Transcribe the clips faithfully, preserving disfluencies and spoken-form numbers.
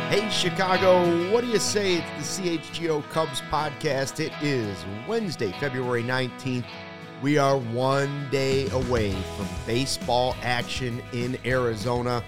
Hey, Chicago, what do you say? It's the C H G O Cubs podcast. It is Wednesday, February nineteenth. We are one day away from baseball action in Arizona.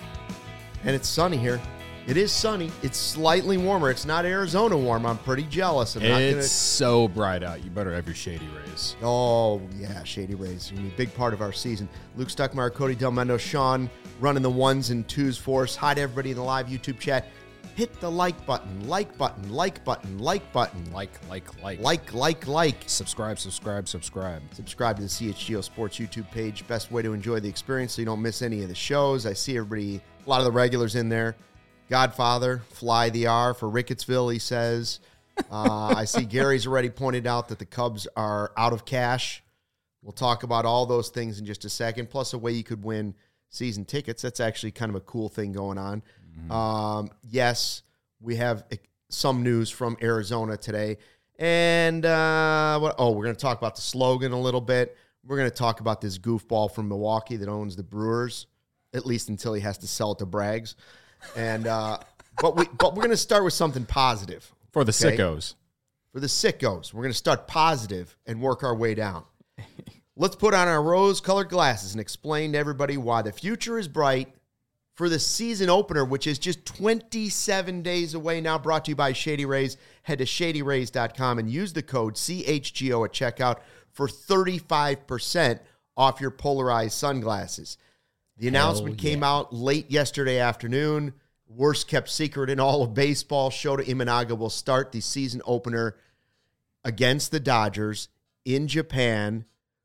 And it's sunny here. It is sunny. It's slightly warmer. It's not Arizona warm. I'm pretty jealous. I'm not it's gonna... so bright out. You better have your Shady Rays. Oh, yeah, Shady Rays. It's a big part of our season. Luke Stuckmeyer, Cody Del Mendo, Sean running the ones and twos for us. Hi to everybody in the live YouTube chat. Hit the like button, like button, like button, like button. Like, like, like. Like, like, like. Subscribe, subscribe, subscribe. Subscribe to the C H G O Sports YouTube page. Best way to enjoy the experience so you don't miss any of the shows. I see everybody, a lot of the regulars in there. Godfather, fly the R for Rickettsville, he says. Uh, I see Gary's already pointed out that the Cubs are out of cash. We'll talk about all those things in just a second, plus a way you could win season tickets. That's actually kind of a cool thing going on. Mm-hmm. Um, yes, we have some news from Arizona today. And, uh, what, oh, we're going to talk about the slogan a little bit. We're going to talk about this goofball from Milwaukee that owns the Brewers, at least until he has to sell it to Braggs. And uh, but we but we're going to start with something positive. For the okay? sickos. For the sickos. We're going to start positive and work our way down. Let's put on our rose-colored glasses and explain to everybody why the future is bright for the season opener, which is just twenty-seven days away now, brought to you by Shady Rays. Head to shady rays dot com and use the code C H G O at checkout for thirty-five percent off your polarized sunglasses. The announcement Hell yeah. came out late yesterday afternoon. Worst kept secret in all of baseball. Shota Imanaga will start the season opener against the Dodgers in Japan.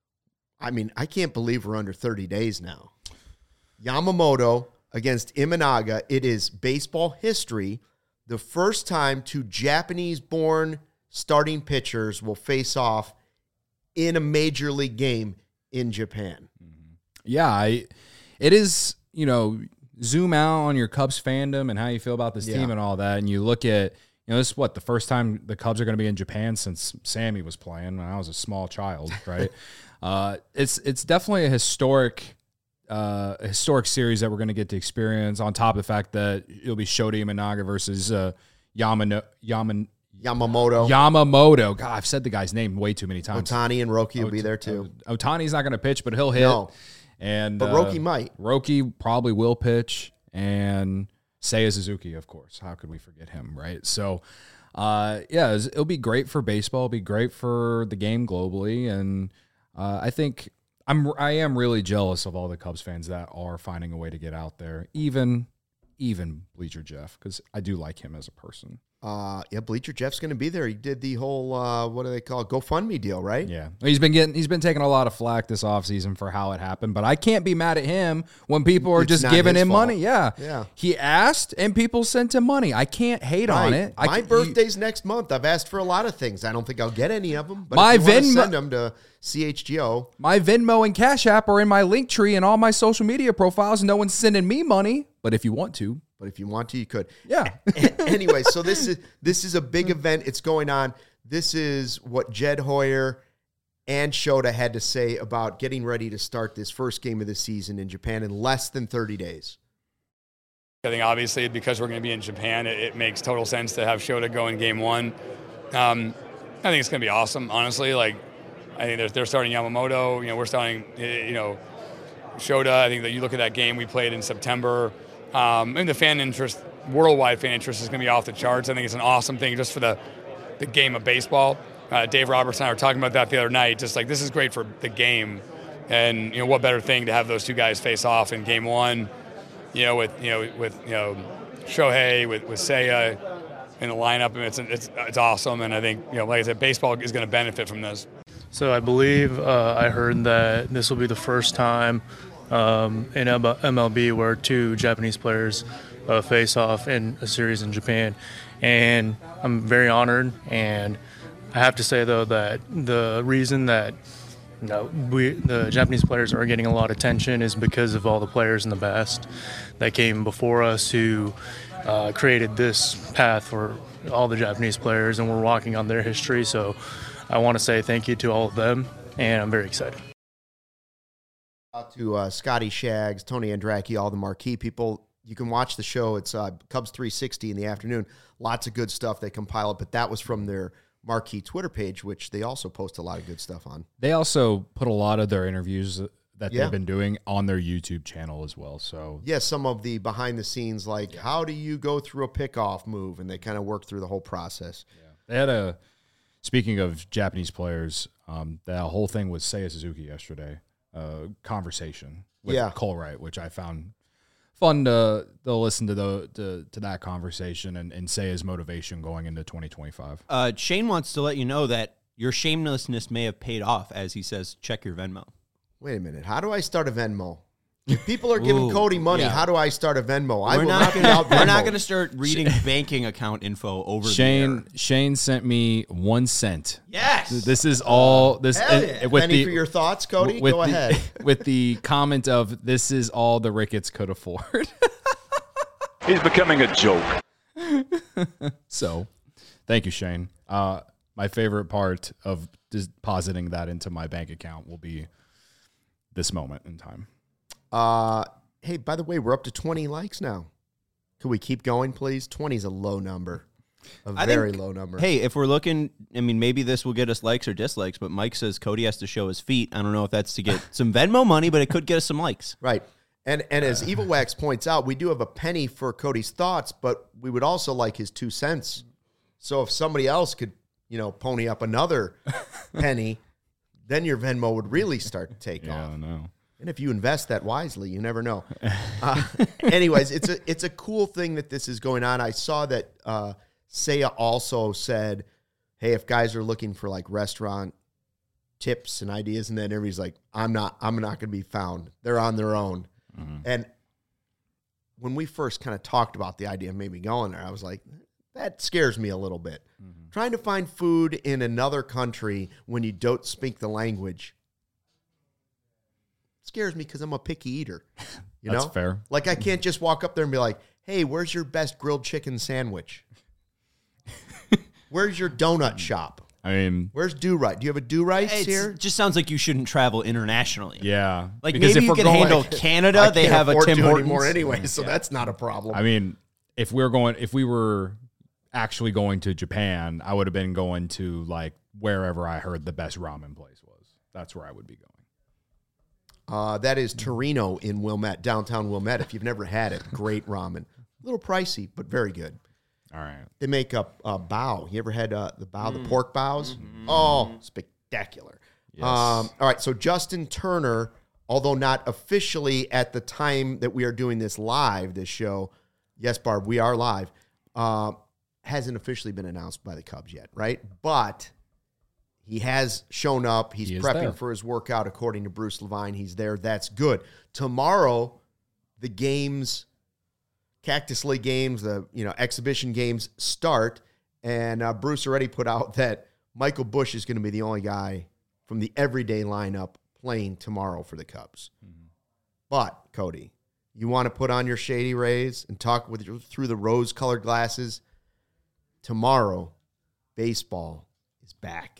I mean, I can't believe we're under thirty days now. Yamamoto against Imanaga. It is baseball history. The first time two Japanese-born starting pitchers will face off in a major league game in Japan. Yeah, I, it is, you know, zoom out on your Cubs fandom and how you feel about this Yeah. team and all that, and you look at, you know, this is what, the first time the Cubs are going to be in Japan since Sammy was playing when I was a small child, right? uh, it's it's definitely a historic uh, a historic series that we're going to get to experience, on top of the fact that it'll be Shota Imanaga versus uh, Yamano, Yaman, Yamamoto. Yamamoto. God, I've said the guy's name way too many times. Otani and Roki will Ot- be there too. Otani's not going to pitch, but he'll hit. No. And But uh, Roki might. Roki probably will pitch, and Seiya Suzuki, of course. How could we forget him, right? So, uh, yeah, it's- it'll be great for baseball. It'll be great for the game globally, and uh, I think I'm I am really jealous of all the Cubs fans that are finding a way to get out there, even even Bleacher Jeff, because I do like him as a person. Uh, yeah, Bleacher Jeff's going to be there. He did the whole, uh, what do they call it, GoFundMe deal, right? Yeah. He's been getting he's been taking a lot of flack this offseason for how it happened, but I can't be mad at him when people are It's just not giving his him fault. money. Yeah. Yeah. He asked and people sent him money. I can't hate on Right. it. I My can- birthday's next month. I've asked for a lot of things. I don't think I'll get any of them, but My if you want to Venmo- send them to C H G O. My Venmo and Cash App are in my link tree and all my social media profiles. No one's sending me money, but if you want to, But if you want to, you could. yeah. Anyway, so this is this is a big event. It's going on. This is what Jed Hoyer and Shota had to say about getting ready to start this first game of the season in Japan in less than thirty days. I think obviously because we're going to be in Japan, it, it makes total sense to have Shota go in game one. Um, I think it's going to be awesome, honestly. Like, I think they're, they're starting Yamamoto. You know, we're starting, you know, Shota. I think that you look at that game we played in September. Um, and the fan interest, worldwide fan interest, is going to be off the charts. I think it's an awesome thing just for the, the game of baseball. Uh, Dave Roberts and I were talking about that the other night. Just like, this is great for the game. And, you know, what better thing to have those two guys face off in game one, you know, with, you know, with, you know, Shohei, with, with Seiya in the lineup. I mean, it's, it's, it's awesome. And I think, you know, like I said, baseball is going to benefit from this. So I believe uh, I heard that this will be the first time um, in M L B where two Japanese players uh, face off in a series in Japan. And I'm very honored. And I have to say, though, that the reason that you know, we the Japanese players are getting a lot of attention is because of all the players in the past that came before us who uh, created this path for all the Japanese players, and we're walking on their history. So I want to say thank you to all of them, and I'm very excited. Out to uh, Scotty Shaggs, Tony Andracki, all the marquee people. you can watch the show. It's uh, Cubs three sixty in the afternoon. Lots of good stuff they compile it, but that was from their marquee Twitter page, which they also post a lot of good stuff on. They also put a lot of their interviews that Yeah. they've been doing on their YouTube channel as well. So Yeah, some of the behind the scenes, like how do you go through a pickoff move, and they kind of work through the whole process. they had a, speaking of Japanese players, um, that whole thing with Seiya Suzuki yesterday, uh, conversation with Yeah. Cole Wright, which I found fun to, to listen to the to, to that conversation and, and Seiya's motivation going into twenty twenty-five. Uh, Shane wants to let you know that your shamelessness may have paid off, as he says, check your Venmo. Wait a minute. How do I start a Venmo? If people are giving Ooh, Cody money, yeah. how do I start a Venmo? I We're will not not be gonna, out we're not Venmo. going to start reading banking account info over Shane the air. Shane sent me one cent. Yes. This is all this Hell it- yeah. with Penny the for your thoughts, Cody? with Go the, ahead. with the comment of this is all the Ricketts could afford. He's becoming a joke. So, thank you, Shane. Uh, my favorite part of depositing that into my bank account will be this moment in time. Uh, hey, by the way, we're up to twenty likes now. Could we keep going, please? twenty is a low number. A I very think- low number. Hey, if we're looking, I mean, maybe this will get us likes or dislikes, but Mike says Cody has to show his feet. I don't know if that's to get some Venmo money, but it could get us some likes. Right. And and as Evil Wax points out, we do have a penny for Cody's thoughts, but we would also like his two cents. So if somebody else could, you know, pony up another penny, then your Venmo would really start to take Yeah, off. I know. And if you invest that wisely, you never know. Uh, anyways, it's a it's a cool thing that this is going on. I saw that uh, Seiya also said, "Hey, if guys are looking for like restaurant tips and ideas," and then everybody's like, "I'm not, I'm not going to be found. They're on their own." Mm-hmm. And when we first kind of talked about the idea of maybe going there, I was like, that scares me a little bit. Mm-hmm. Trying to find food in another country when you don't speak the language scares me because I'm a picky eater. You That's know? fair. Like I can't just walk up there and be like, "Hey, where's your best grilled chicken sandwich? Where's your donut shop? I mean, Where's Do Right? Do you have a Do Rights It's- here?" It just sounds like you shouldn't travel internationally. yeah. Like Because maybe if you we're can going- handle I Canada. They can't have a afford Tim to Hortons. anymore anyway, so that's not a problem. I mean, if we're going, if we were actually going to Japan, I would have been going to like wherever I heard the best ramen place was. That's where I would be going. Uh, that is Torino in Wilmette, downtown Wilmette. If you've never had it, great ramen. A little pricey, but very good. All right. They make a, a bao. You ever had uh, the bao, the pork baos? Oh, spectacular. Yes. Um, all right, so Justin Turner, although not officially at the time that we are doing this live, this show, yes, Barb, we are live, uh, hasn't officially been announced by the Cubs yet, right? But he has shown up. He's He is prepping there. for his workout, according to Bruce Levine. He's there. That's good. Tomorrow, the games, Cactus League games, the you know exhibition games start, and uh, Bruce already put out that Michael Busch is going to be the only guy from the everyday lineup playing tomorrow for the Cubs. Mm-hmm. But Cody, you want to put on your Shady Rays and talk with through the rose-colored glasses? Tomorrow, baseball is back.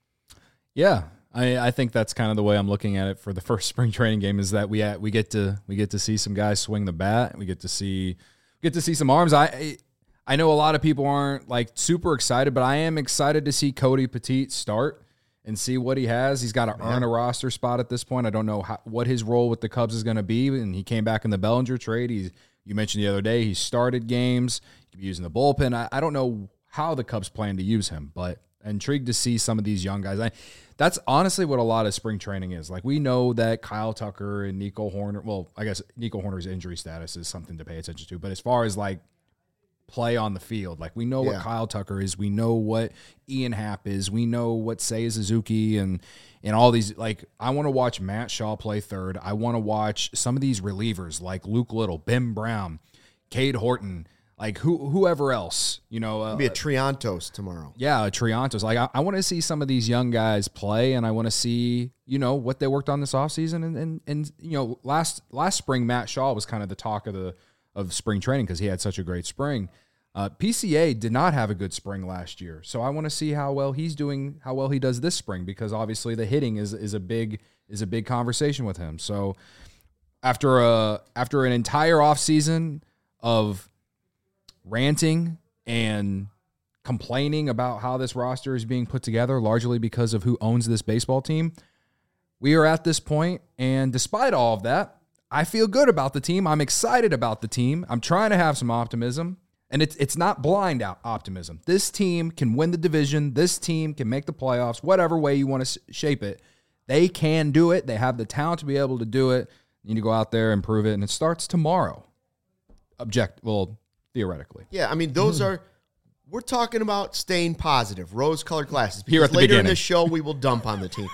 Yeah, I, I think that's kind of the way I'm looking at it for the first spring training game. Is that we at, we get to we get to see some guys swing the bat. We get to see get to see some arms. I I know a lot of people aren't like super excited, but I am excited to see Cody Petit start and see what he has. He's got to earn a roster spot at this point. I don't know how, what his role with the Cubs is going to be. And he came back in the Bellinger trade. He's you mentioned the other day he started games. He could be using the bullpen. I, I don't know how the Cubs plan to use him, but intrigued to see some of these young guys. I, that's honestly what a lot of spring training is. Like we know that Kyle Tucker and Nico Horner, well, I guess Nico Horner's injury status is something to pay attention to, but as far as like play on the field, like we know Yeah. what Kyle Tucker is, we know what Ian Happ is, we know what Seiya Suzuki and and all these, like I want to watch Matt Shaw play third. I want to watch some of these relievers like Luke Little, Ben Brown, Cade Horton, like who whoever else, you know, uh, Be a Triantos tomorrow. yeah, Triantos. Like I, I want to see some of these young guys play, and I want to see, you know, what they worked on this offseason. And and and you know, last last spring, Matt Shaw was kind of the talk of the of spring training because he had such a great spring. Uh, P C A did not have a good spring last year, so I want to see how well he's doing, how well he does this spring, because obviously the hitting is is a big is a big conversation with him. So after a after an entire offseason of ranting and complaining about how this roster is being put together, largely because of who owns this baseball team. We are at this point, and despite all of that, I feel good about the team. I'm excited about the team. I'm trying to have some optimism, and it's it's not blind out optimism. This team can win the division. This team can make the playoffs, whatever way you want to shape it. They can do it. They have the talent to be able to do it. You need to go out there and prove it, and it starts tomorrow. Object, well, theoretically. Yeah, I mean, those are, we're talking about staying positive, rose-colored glasses. Here at the later beginning. in the show, we will dump on the team.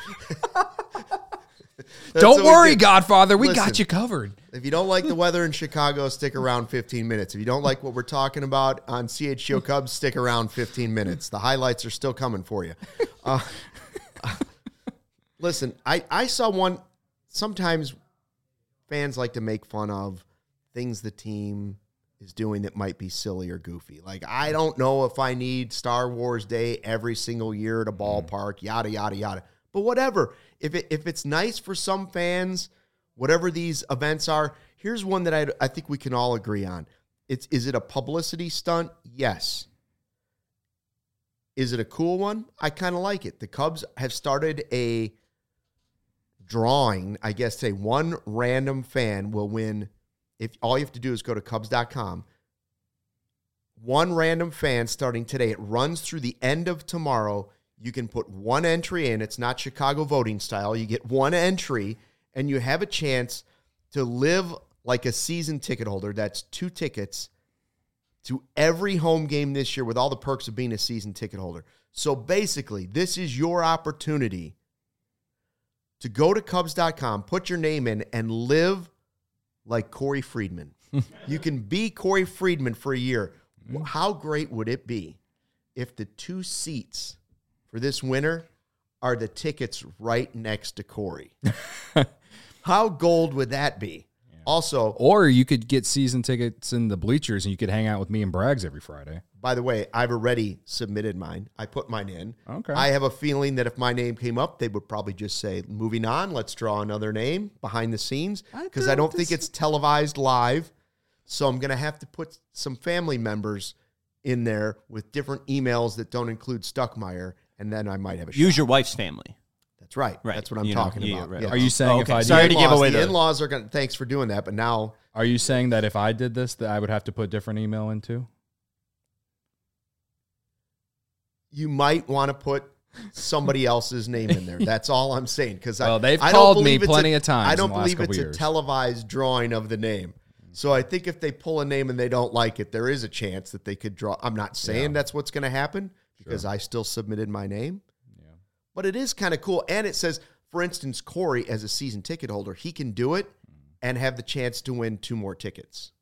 Don't worry, do. Godfather. We Listen, got you covered. If you don't like the weather in Chicago, stick around fifteen minutes. If you don't like what we're talking about on C H G O Cubs, stick around fifteen minutes. The highlights are still coming for you. Uh, listen, I, I saw one, sometimes fans like to make fun of things the team is doing that might be silly or goofy. Like, I don't know if I need Star Wars Day every single year at a ballpark, yada, yada, yada. But whatever. If it, if it's nice for some fans, whatever these events are, here's one that I, I think we can all agree on. It's, is it a publicity stunt? Yes. Is it a cool one? I kind of like it. The Cubs have started a drawing, I guess, say one random fan will win. If all you have to do is go to Cubs dot com. One random fan starting today. It runs through the end of tomorrow. You can put one entry in. It's not Chicago voting style. You get one entry, and you have a chance to live like a season ticket holder. That's two tickets to every home game this year with all the perks of being a season ticket holder. So basically, this is your opportunity to go to Cubs dot com, put your name in, and live like Corey Friedman. You can be Corey Friedman for a year. How great would it be if the two seats for this winter are the tickets right next to Corey? How gold would that be? Yeah. Also, or you could get season tickets in the bleachers and you could hang out with me and Braggs every Friday. By the way, I've already submitted mine. I put mine in. Okay. I have a feeling that if my name came up, they would probably just say, moving on, let's draw another name behind the scenes, because I, I don't this... think it's televised live. So I'm going to have to put some family members in there with different emails that don't include Stuckmeyer, and then I might have a shot. Use your wife's family. That's right. right. That's what I'm you talking know, about. Yeah, right. Yeah. Are you saying oh, okay. if I Sorry to give away the the in-laws are going to, thanks for doing that, but now. Are you saying that if I did this, that I would have to put different email in too? You might want to put somebody else's name in there. That's all I'm saying. Because well, I, they've I called me a, plenty of times. I don't in the last believe it's years. a televised drawing of the name. So I think if they pull a name and they don't like it, there is a chance that they could draw. I'm not saying yeah. that's what's going to happen because sure. I still submitted my name. Yeah. But it is kind of cool. And it says, for instance, Corey, as a season ticket holder, he can do it and have the chance to win two more tickets.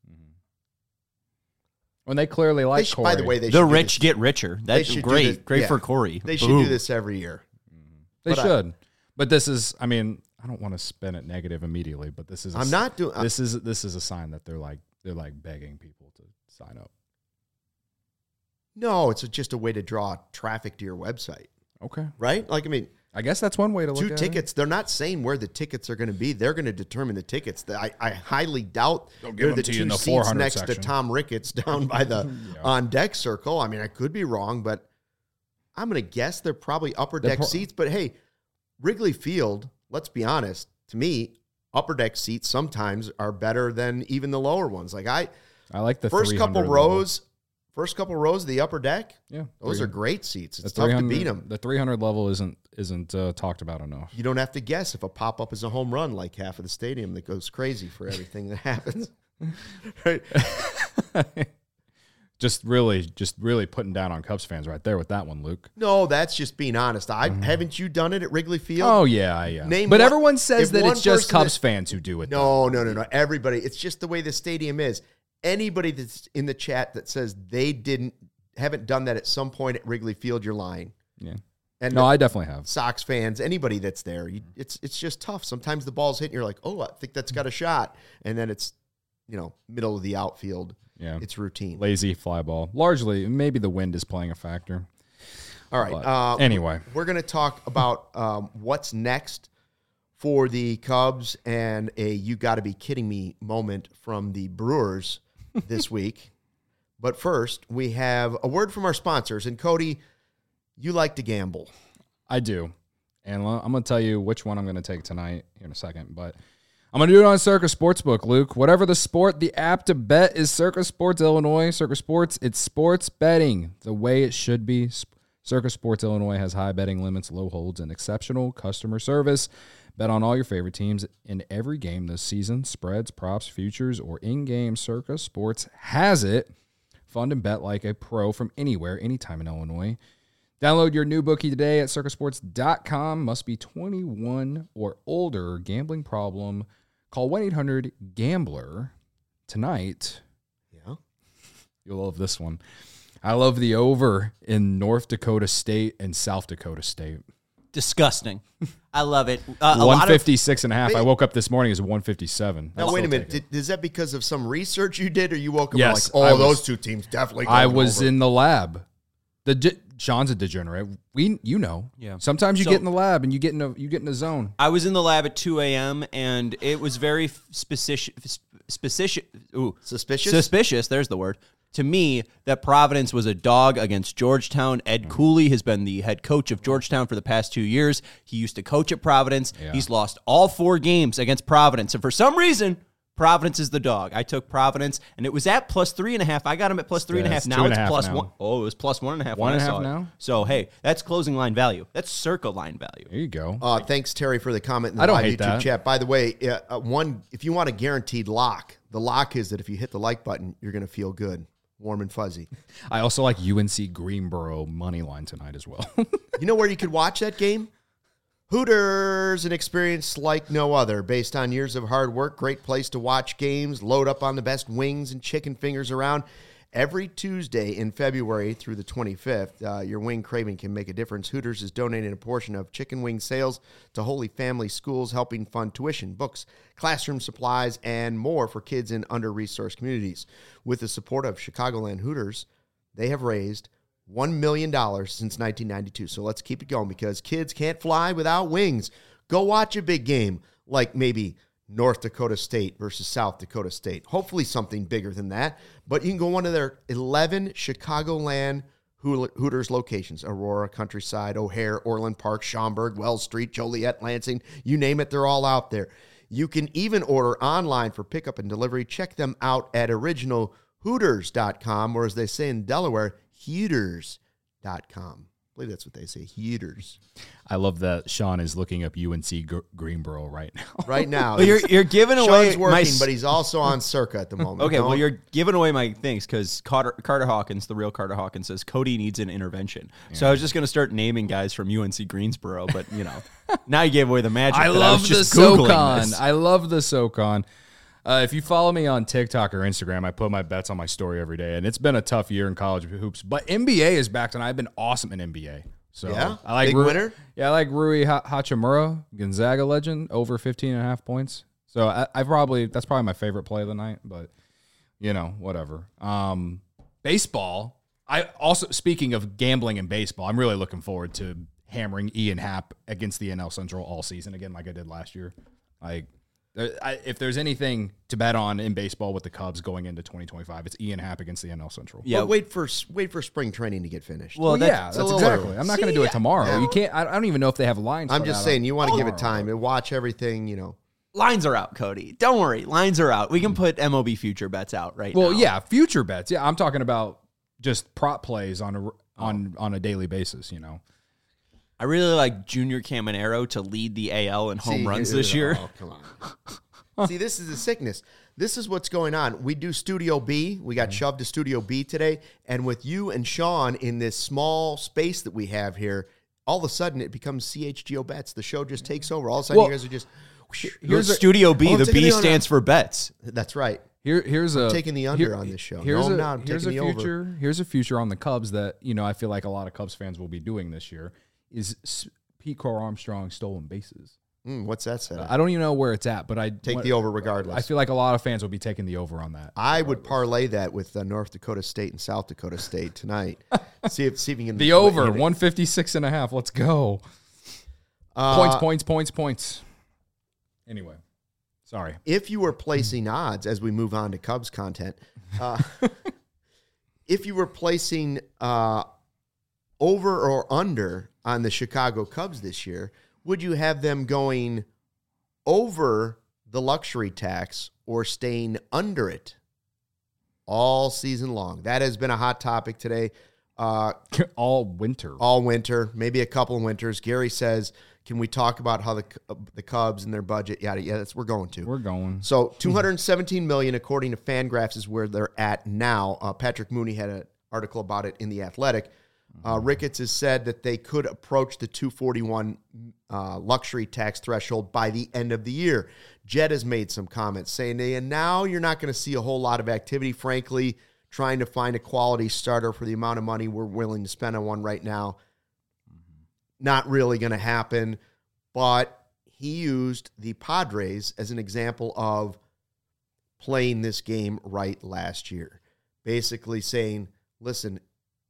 When they clearly like should, Corey. By the way, they the should rich get richer. That's great. This, great yeah. for Corey. They Boom. should do this every year. They but should. I, but this is, I mean, I don't want to spin it negative immediately, but this is. A, I'm not doing. This is this is a sign that they're like they're like begging people to sign up. No, it's just a way to draw traffic to your website. Okay. Right? Like, I mean, I guess that's one way to look two at tickets. it. They're not saying where the tickets are going to be. They're going to determine the tickets. I, I highly doubt They'll give they're them the to you two in the seats next section. to Tom Ricketts down by the yeah. on deck circle. I mean, I could be wrong, but I'm going to guess they're probably upper They're deck pro- seats. But hey, Wrigley Field, let's be honest, to me, upper deck seats sometimes are better than even the lower ones. Like I, I like the first couple level. rows. First couple rows of the upper deck, yeah, those are great seats. It's tough to beat them. The three hundred level isn't isn't uh, talked about enough. You don't have to guess if a pop up is a home run, like half of the stadium that goes crazy for everything that happens. Right? just really, just really putting down on Cubs fans right there with that one, Luke. No, that's just being honest. I mm-hmm. haven't you done it at Wrigley Field? Oh yeah, yeah. Name but one, everyone says that it's just Cubs that, fans who do it. No, though. no, no, no. Everybody. It's just the way the stadium is. Anybody that's in the chat that says they didn't. Haven't done that at some point at Wrigley Field, you're lying. Yeah. And no, I definitely have. Sox fans, anybody that's there, you, it's it's just tough. Sometimes the ball's hitting, you're like, oh, I think that's got a shot. And then it's, you know, middle of the outfield. Yeah. It's routine. Lazy fly ball. Largely, maybe the wind is playing a factor. All right. Uh, anyway. We're going to talk about um, what's next for the Cubs and a you got to be kidding me moment from the Brewers this week. But first, we have a word from our sponsors. And Cody, you like to gamble. I do. And I'm going to tell you which one I'm going to take tonight here in a second. But I'm going to do it on Circa Sportsbook, Luke. Whatever the sport, the app to bet is Circa Sports Illinois. Circa Sports, it's sports betting the way it should be. Circa Sports Illinois has high betting limits, low holds, and exceptional customer service. Bet on all your favorite teams in every game this season. Spreads, props, futures, or in-game. Circa Sports has it. Fund and bet like a pro from anywhere, anytime in Illinois. Download your new bookie today at circa sports dot com. Must be twenty-one or older. Gambling problem. Call one eight hundred gambler tonight. Yeah. You'll love this one. I love the over in North Dakota State and South Dakota State. Disgusting. I love it. Uh, a one lot fifty-six and a half. Wait. I woke up this morning as one fifty-seven. Now, I'll wait a still minute. take it. Did, is that because of some research you did, or you woke up Yes, and like, I oh, was- those two teams definitely I going was over. in the lab. The de- Sean's a degenerate. We, you know. Yeah. Sometimes you So- get in the lab and you get in a you get in a zone. I was in the lab at two a.m. and it was very specific. Specific. Ooh, Suspicious? Suspicious. There's the word. To me, that Providence was a dog against Georgetown. Ed Cooley has been the head coach of Georgetown for the past two years. He used to coach at Providence. Yeah. He's lost all four games against Providence. And for some reason, Providence is the dog. I took Providence, and it was at plus three and a half. I got him at plus three and a Yeah, half. it's Now two and it's a half plus now. one. Oh, it was plus one and a half. One when and I a saw half it. now? So, hey, that's closing line value. That's circa line value. There you go. Uh, thanks, Terry, for the comment in the I don't live hate YouTube that. chat. By the way, uh, uh, one if you want a guaranteed lock, the lock is that if you hit the like button, you're going to feel good, warm and fuzzy. I also like U N C Greenboro money line tonight as well. You know where you could watch that game? Hooters, an experience like no other. Based on years of hard work, great place to watch games, load up on the best wings and chicken fingers around. Every Tuesday in February through the twenty-fifth, uh, your wing craving can make a difference. Hooters is donating a portion of chicken wing sales to Holy Family Schools, helping fund tuition, books, classroom supplies, and more for kids in under-resourced communities. With the support of Chicagoland Hooters, they have raised one million dollars since nineteen ninety-two. So let's keep it going because kids can't fly without wings. Go watch a big game like maybe North Dakota State versus South Dakota State. Hopefully something bigger than that. But you can go one of their eleven Chicagoland Hooters locations. Aurora, Countryside, O'Hare, Orland Park, Schaumburg, Wells Street, Joliet, Lansing. You name it, they're all out there. You can even order online for pickup and delivery. Check them out at original hooters dot com, or as they say in Delaware, Hooters dot com. I believe that's what they say, Hooters. I love that Sean is looking up U N C Gr- Greenboro right now. Right now. Well, you're you're giving away Sean's working, my s- but he's also on Circa at the moment. Okay, well, Don't- you're giving away my things because Carter, Carter Hawkins, the real Carter Hawkins, says Cody needs an intervention. So I was just going to start naming guys from U N C Greensboro, but, you know, now you gave away the magic. I that love was the just Googling SoCon. this. I love the SoCon. Uh, if you follow me on TikTok or Instagram, I put my bets on my story every day, and it's been a tough year in college hoops. But N B A is back, and I've been awesome in N B A. So Yeah? I like Big Ru- winner? Yeah, I like Rui ha- Hachimura, Gonzaga legend, over fifteen and a half points. So I, I probably that's probably my favorite play of the night. But you know, whatever. Um, baseball. I also speaking of gambling in baseball, I'm really looking forward to hammering Ian Happ against the N L Central all season again, like I did last year. Like, there, I, if there's anything to bet on in baseball with the Cubs going into twenty twenty-five, it's Ian Happ against the N L Central. Yeah. But wait for wait for spring training to get finished. Well, Well, that's- yeah, it's a that's little exactly. early. I'm not going to See, do it tomorrow. yeah. You can't. I, I don't even know if they have lines. I'm put just out saying, on- you want to give it tomorrow. time and watch everything, you know. Lines are out, Cody. Don't worry. Lines are out. We can put M L B future bets out right Well, now. yeah, future bets. Yeah, I'm talking about just prop plays on a on on a daily basis. You know. I really like Junior Caminero to lead the A L in home See, runs here- this year. Oh, come on. See, this is a sickness. This is what's going on. We do Studio B. We got shoved to Studio B today. And with you and Sean in this small space that we have here, all of a sudden it becomes C H G O Bets. The show just takes over. All of a sudden Well, you guys are just... Here's a- Studio B. Oh, I'm the taking B the under. stands for bets. That's right. Here, here's a taking the under on this show. Here's No, a I'm not. I'm here's a taking the over. future. Here's a future on the Cubs that you know I feel like a lot of Cubs fans will be doing this year is s- Pete Crow Armstrong stolen bases. Mm, what's that set up? I don't even know where it's at, but I Take what- the over regardless. I feel like a lot of fans will be taking the over on that. I would parlay that with uh, North Dakota State and South Dakota State tonight. see if see if you can The over hit it. one fifty-six and a half. Let's go. Uh, Points, points, points, points. Anyway, Sorry. If you were placing odds, as we move on to Cubs content, uh, if you were placing uh, over or under on the Chicago Cubs this year, would you have them going over the luxury tax or staying under it all season long? That has been a hot topic today. Uh, all winter. All winter, maybe a couple of winters. Gary says, can we talk about how the the Cubs and their budget, yada, yada. That's, we're going to. We're going. So two hundred seventeen million dollars, according to Fangraphs, is where they're at now. Uh, Patrick Mooney had an article about it in The Athletic. Uh, Ricketts has said that they could approach the two forty-one uh, luxury tax threshold by the end of the year. Jed has made some comments saying, and now you're not going to see a whole lot of activity, frankly, trying to find a quality starter for the amount of money we're willing to spend on one right now. Not really going to happen, but he used the Padres as an example of playing this game right last year. Basically saying, listen,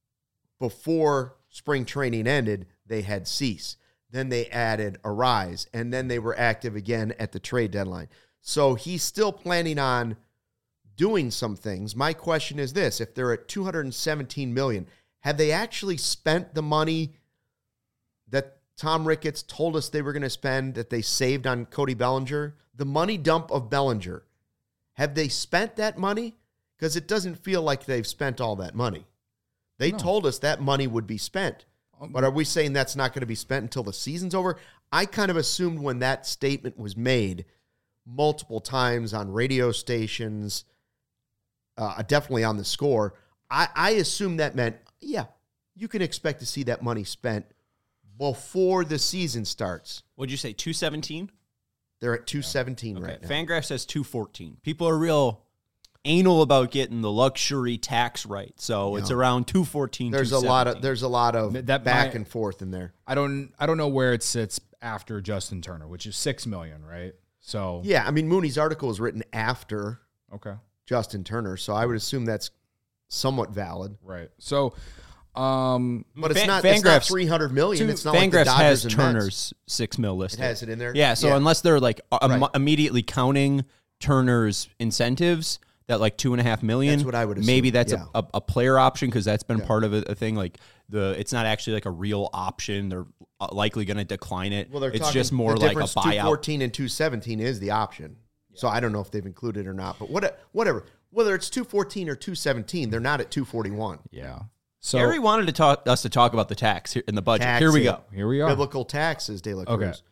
before spring training ended, they had Cease. Then they added Arise, and then they were active again at the trade deadline. So he's still planning on doing some things. My question is this: if they're at two hundred seventeen million dollars, have they actually spent the money that Tom Ricketts told us they were going to spend, that they saved on Cody Bellinger? The money dump of Bellinger. Have they spent that money? Because it doesn't feel like they've spent all that money. They No. told us that money would be spent. But are we saying that's not going to be spent until the season's over? I kind of assumed when that statement was made multiple times on radio stations, uh, definitely on The Score, I, I assumed that meant, yeah, you can expect to see that money spent before the season starts. What'd you say, two seventeen? They're at two seventeen Okay. right now. Fangraph says two fourteen. People are real anal about getting the luxury tax right, so it's Yeah. around two fourteen. There's a lot of there's a lot of That back might- and forth in there. I don't I don't know where it sits after Justin Turner, which is six million, right? So Yeah, I mean, Mooney's article was written after okay. Justin Turner, so I would assume that's somewhat valid. Right. So um But it's Fan- not, it's not Fangraphs- three hundred million Two- It's not like the Fangraphs Dodgers has and Turner's Mets. six mil listed. It has it in there? Yeah, so Yeah. unless they're like uh, Right. im- immediately counting Turner's incentives, that like two and a half million. That's what I would assume, Maybe that's yeah. a, a, a player option because that's been Yeah. part of a, a thing. Like the, it's not actually like a real option. They're uh, likely going to decline it. Well, they're it's talking, just more the like a difference, two buyout. fourteen and two seventeen is the option. So I don't know if they've included it or not, but what, whatever. Whether it's two fourteen or two seventeen, they're not at two forty-one. yeah. So Gary wanted to talk us to talk about the tax here in the budget. Tax Here we it. go. here we are. Biblical taxes, De La Cruz. Okay.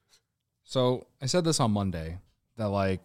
So I said this on Monday that like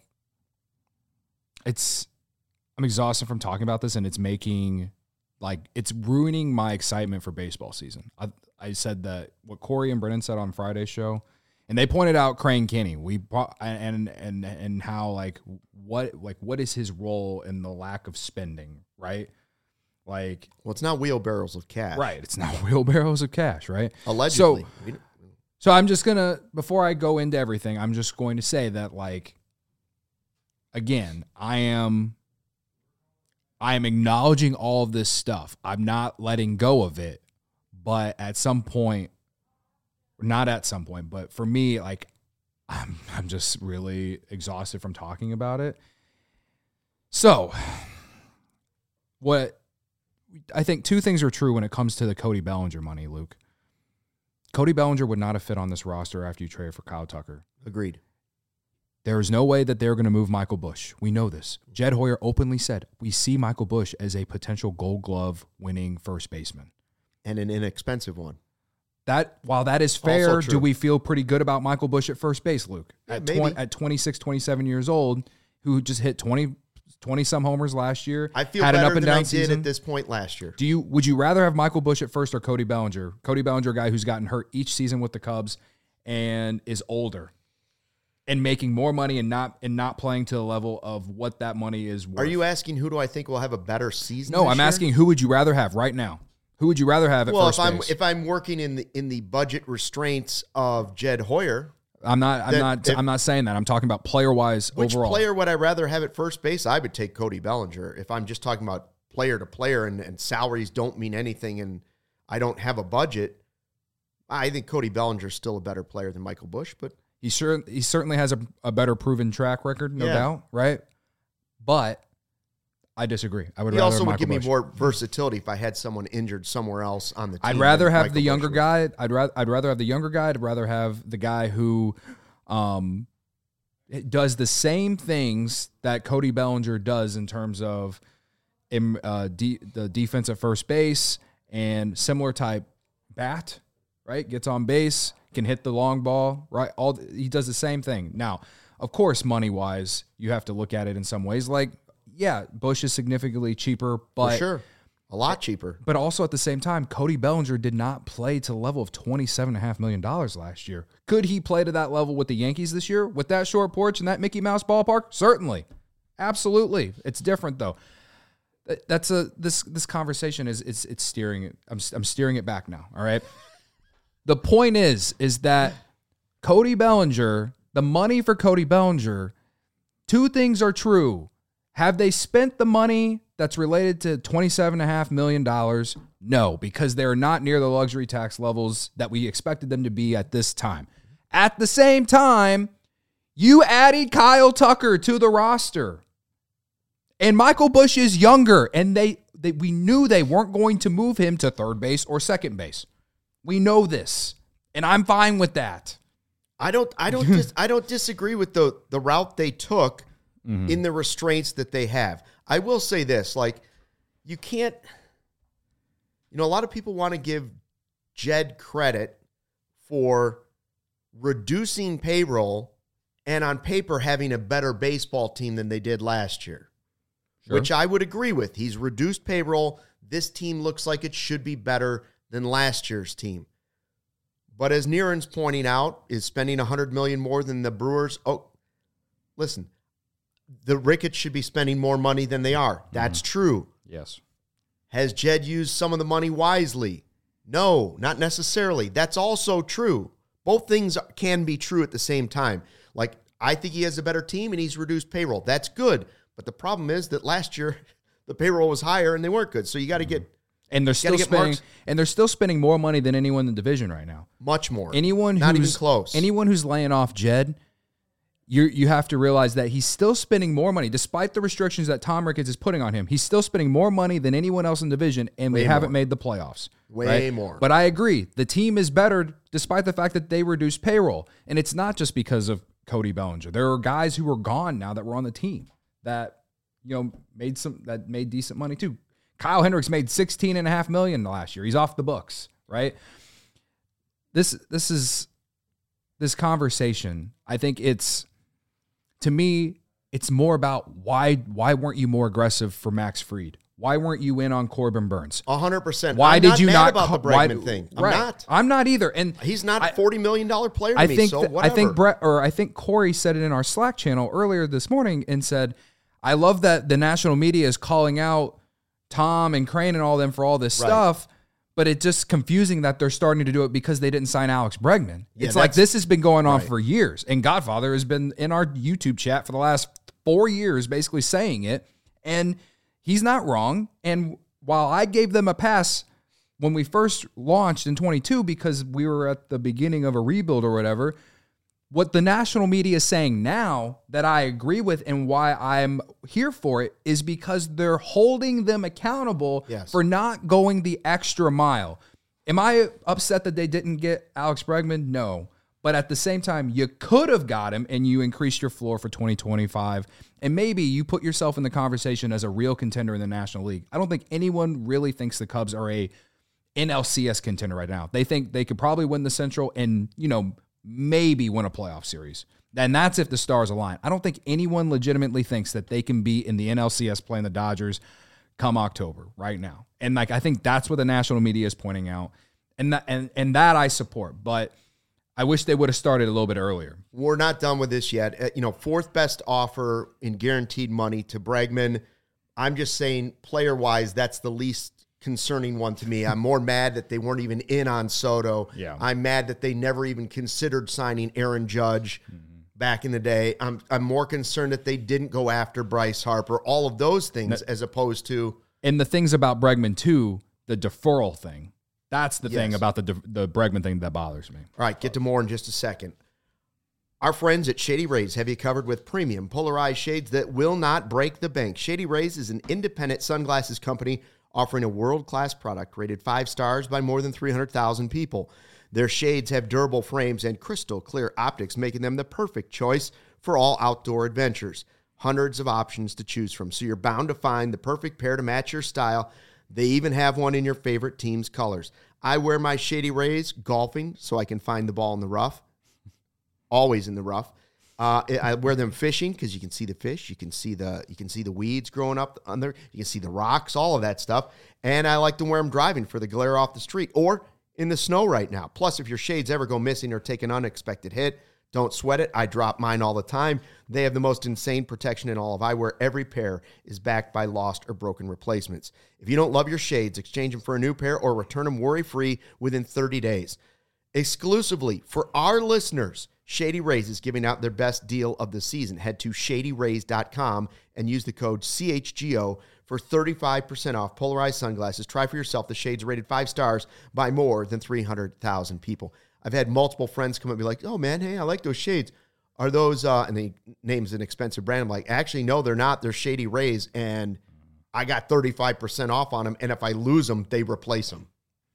it's I'm exhausted from talking about this and it's making like it's ruining my excitement for baseball season. I I said that what Corey and Brennan said on Friday's show, and they pointed out Crane Kinney. We brought, and and and how like what like what is his role in the lack of spending, right? Like Well, it's not wheelbarrows of cash. right, it's not wheelbarrows of cash, right? Allegedly. So, We don't- So I'm just going to, before I go into everything, I'm just going to say that, like, again, I am, I am acknowledging all of this stuff. I'm not letting go of it, but at some point, not at some point, but for me, like, I'm, I'm just really exhausted from talking about it. So what I think two things are true when it comes to the Cody Bellinger money, Luke. Cody Bellinger would not have fit on this roster after you traded for Kyle Tucker. Agreed. There is no way that they're going to move Michael Busch. We know this. Jed Hoyer openly said, we see Michael Busch as a potential Gold Glove winning first baseman. And an inexpensive one. That while that is fair, true. do we feel pretty good about Michael Busch at first base, Luke? Yeah, At, maybe. twenty, at twenty-six, twenty-seven years old, who just hit twenty, twenty-some homers last year, I feel had an better up and than I down did season. at this point last year. Do you would you rather have Michael Busch at first or Cody Bellinger? Cody Bellinger, a guy who's gotten hurt each season with the Cubs and is older and making more money and not and not playing to the level of what that money is worth. Are you asking who do I think will have a better season? No, this I'm year? asking who would you rather have right now? Who would you rather have at Well, first if I'm base? if I'm working in the in the budget restraints of Jed Hoyer, I'm not. I'm then not. if- I'm not saying that. I'm talking about player wise which overall. player would I rather have at first base? I would take Cody Bellinger. If I'm just talking about player to player and, and salaries don't mean anything and I don't have a budget, I think Cody Bellinger is still a better player than Michael Busch. But He sure he certainly has a, a better proven track record, no Yeah. doubt, right? But I disagree. I would He rather also have would Michael give me Bush. more versatility if I had someone injured somewhere else on the team. I'd rather than have Michael the younger Bush would. guy. I'd rather I'd rather have the younger guy. I'd rather have the guy who um, does the same things that Cody Bellinger does in terms of in, uh, de- the defense at first base and similar type bat, right? Gets on base, can hit the long ball, right? All he does the same thing. Now, of course, money wise, you have to look at it in some ways. Like, yeah, Bush is significantly cheaper, but For sure. A lot cheaper. but also at the same time, Cody Bellinger did not play to the level of twenty-seven point five million dollars last year. Could he play to that level with the Yankees this year with that short porch and that Mickey Mouse ballpark? Certainly. Absolutely. It's different though. That- That's a this this conversation is it's it's steering it. I'm I'm steering it back now, all right? The point is is that Cody Bellinger, the money for Cody Bellinger, two things are true. Have they spent the money that's related to twenty-seven point five million dollars? No, because they're not near the luxury tax levels that we expected them to be at this time. At the same time, you added Kyle Tucker to the roster. And Michael Bush is younger, and they, they we knew they weren't going to move him to third base or second base. We know this, and I'm fine with that. I don't I don't dis, I don't disagree with the the route they took in the restraints that they have. I will say this, like you can't you know a lot of people want to give Jed credit for reducing payroll and on paper having a better baseball team than they did last year. Sure. Which I would agree with. He's reduced payroll. This team looks like it should be better than last year's team. But as Niren's pointing out, is spending one hundred million dollars more than the Brewers. Oh, listen, the Ricketts should be spending more money than they are. That's mm-hmm. true. Yes. Has Jed used some of the money wisely? No, not necessarily. That's also true. Both things can be true at the same time. Like, I think he has a better team and he's reduced payroll. That's good. But the problem is that last year the payroll was higher and they weren't good. So you got to get and they're still spending marks. and they're still spending more money than anyone in the division right now. Much more. Anyone not who's even close. Anyone who's laying off Jed, you you have to realize that he's still spending more money despite the restrictions that Tom Ricketts is putting on him. He's still spending more money than anyone else in the division, and Way we haven't more. made the playoffs. Way right? more. But I agree, the team is better despite the fact that they reduced payroll, and it's not just because of Cody Bellinger. There are guys who are gone now that were on the team that you know made some that made decent money too. Kyle Hendricks made sixteen and a half million last year. He's off the books, right? This this is this conversation. I think it's to me, it's more about why why weren't you more aggressive for Max Fried? Why weren't you in on Corbin Burns? one hundred percent. Why I'm did not you mad not about ca- the Bregman why, thing? I'm right. not. I'm not either. And He's not I- a forty million dollars player to I me, think so that- whatever. I think Brett or I think Corey said it in our Slack channel earlier this morning and said, I love that the national media is calling out Tom and Crane and all them for all this Right. stuff, but it's just confusing that they're starting to do it because they didn't sign Alex Bregman. Yeah, it's like that's- this has been going on right. for years, and Godfather has been in our YouTube chat for the last four years basically saying it, and he's not wrong. And while I gave them a pass when we first launched in twenty-two because we were at the beginning of a rebuild or whatever, what the national media is saying now that I agree with and why I'm here for it is because they're holding them accountable Yes. for not going the extra mile. Am I upset that they didn't get Alex Bregman? No. But at the same time, you could have got him and you increased your floor for twenty twenty-five. And maybe you put yourself in the conversation as a real contender in the National League. I don't think anyone really thinks the Cubs are a N L C S contender right now. They think they could probably win the Central and, you know, maybe win a playoff series. And that's if the stars align. I don't think anyone legitimately thinks that they can be in the N L C S playing the Dodgers come October right now. And like I think that's what the national media is pointing out. And that and, and that I support. But I wish they would have started a little bit earlier. We're not done with this yet. Uh, you know, fourth best offer in guaranteed money to Bregman. I'm just saying, player-wise, that's the least concerning one to me. I'm more mad that they weren't even in on Soto. Yeah. I'm mad that they never even considered signing Aaron Judge mm-hmm. back in the day. I'm I'm more concerned that they didn't go after Bryce Harper. All of those things, that, as opposed to and the things about Bregman too, the deferral thing. That's the yes. thing about the the Bregman thing that bothers me. All right, get to more in just a second. Our friends at Shady Rays have you covered with premium polarized shades that will not break the bank. Shady Rays is an independent sunglasses company offering a world-class product rated five stars by more than three hundred thousand people. Their shades have durable frames and crystal clear optics, making them the perfect choice for all outdoor adventures. Hundreds of options to choose from, so you're bound to find the perfect pair to match your style. They even have one in your favorite team's colors. I wear my Shady Rays golfing so I can find the ball in the rough. Always in the rough. Uh, I wear them fishing because you can see the fish, you can see the you can see the weeds growing up under, you can see the rocks, all of that stuff. And I like to wear them driving for the glare off the street or in the snow right now. Plus, if your shades ever go missing or take an unexpected hit, don't sweat it. I drop mine all the time. They have the most insane protection in all of eyewear. Every pair is backed by lost or broken replacements. If you don't love your shades, exchange them for a new pair or return them worry-free within thirty days. Exclusively for our listeners, Shady Rays is giving out their best deal of the season. Head to shady rays dot com and use the code C H G O for thirty-five percent off polarized sunglasses. Try for yourself. The shades rated five stars by more than three hundred thousand people. I've had multiple friends come up and be like, oh, man, hey, I like those shades. Are those, uh, and they names an expensive brand. I'm like, actually, no, they're not. They're Shady Rays, and I got thirty-five percent off on them, and if I lose them, they replace them.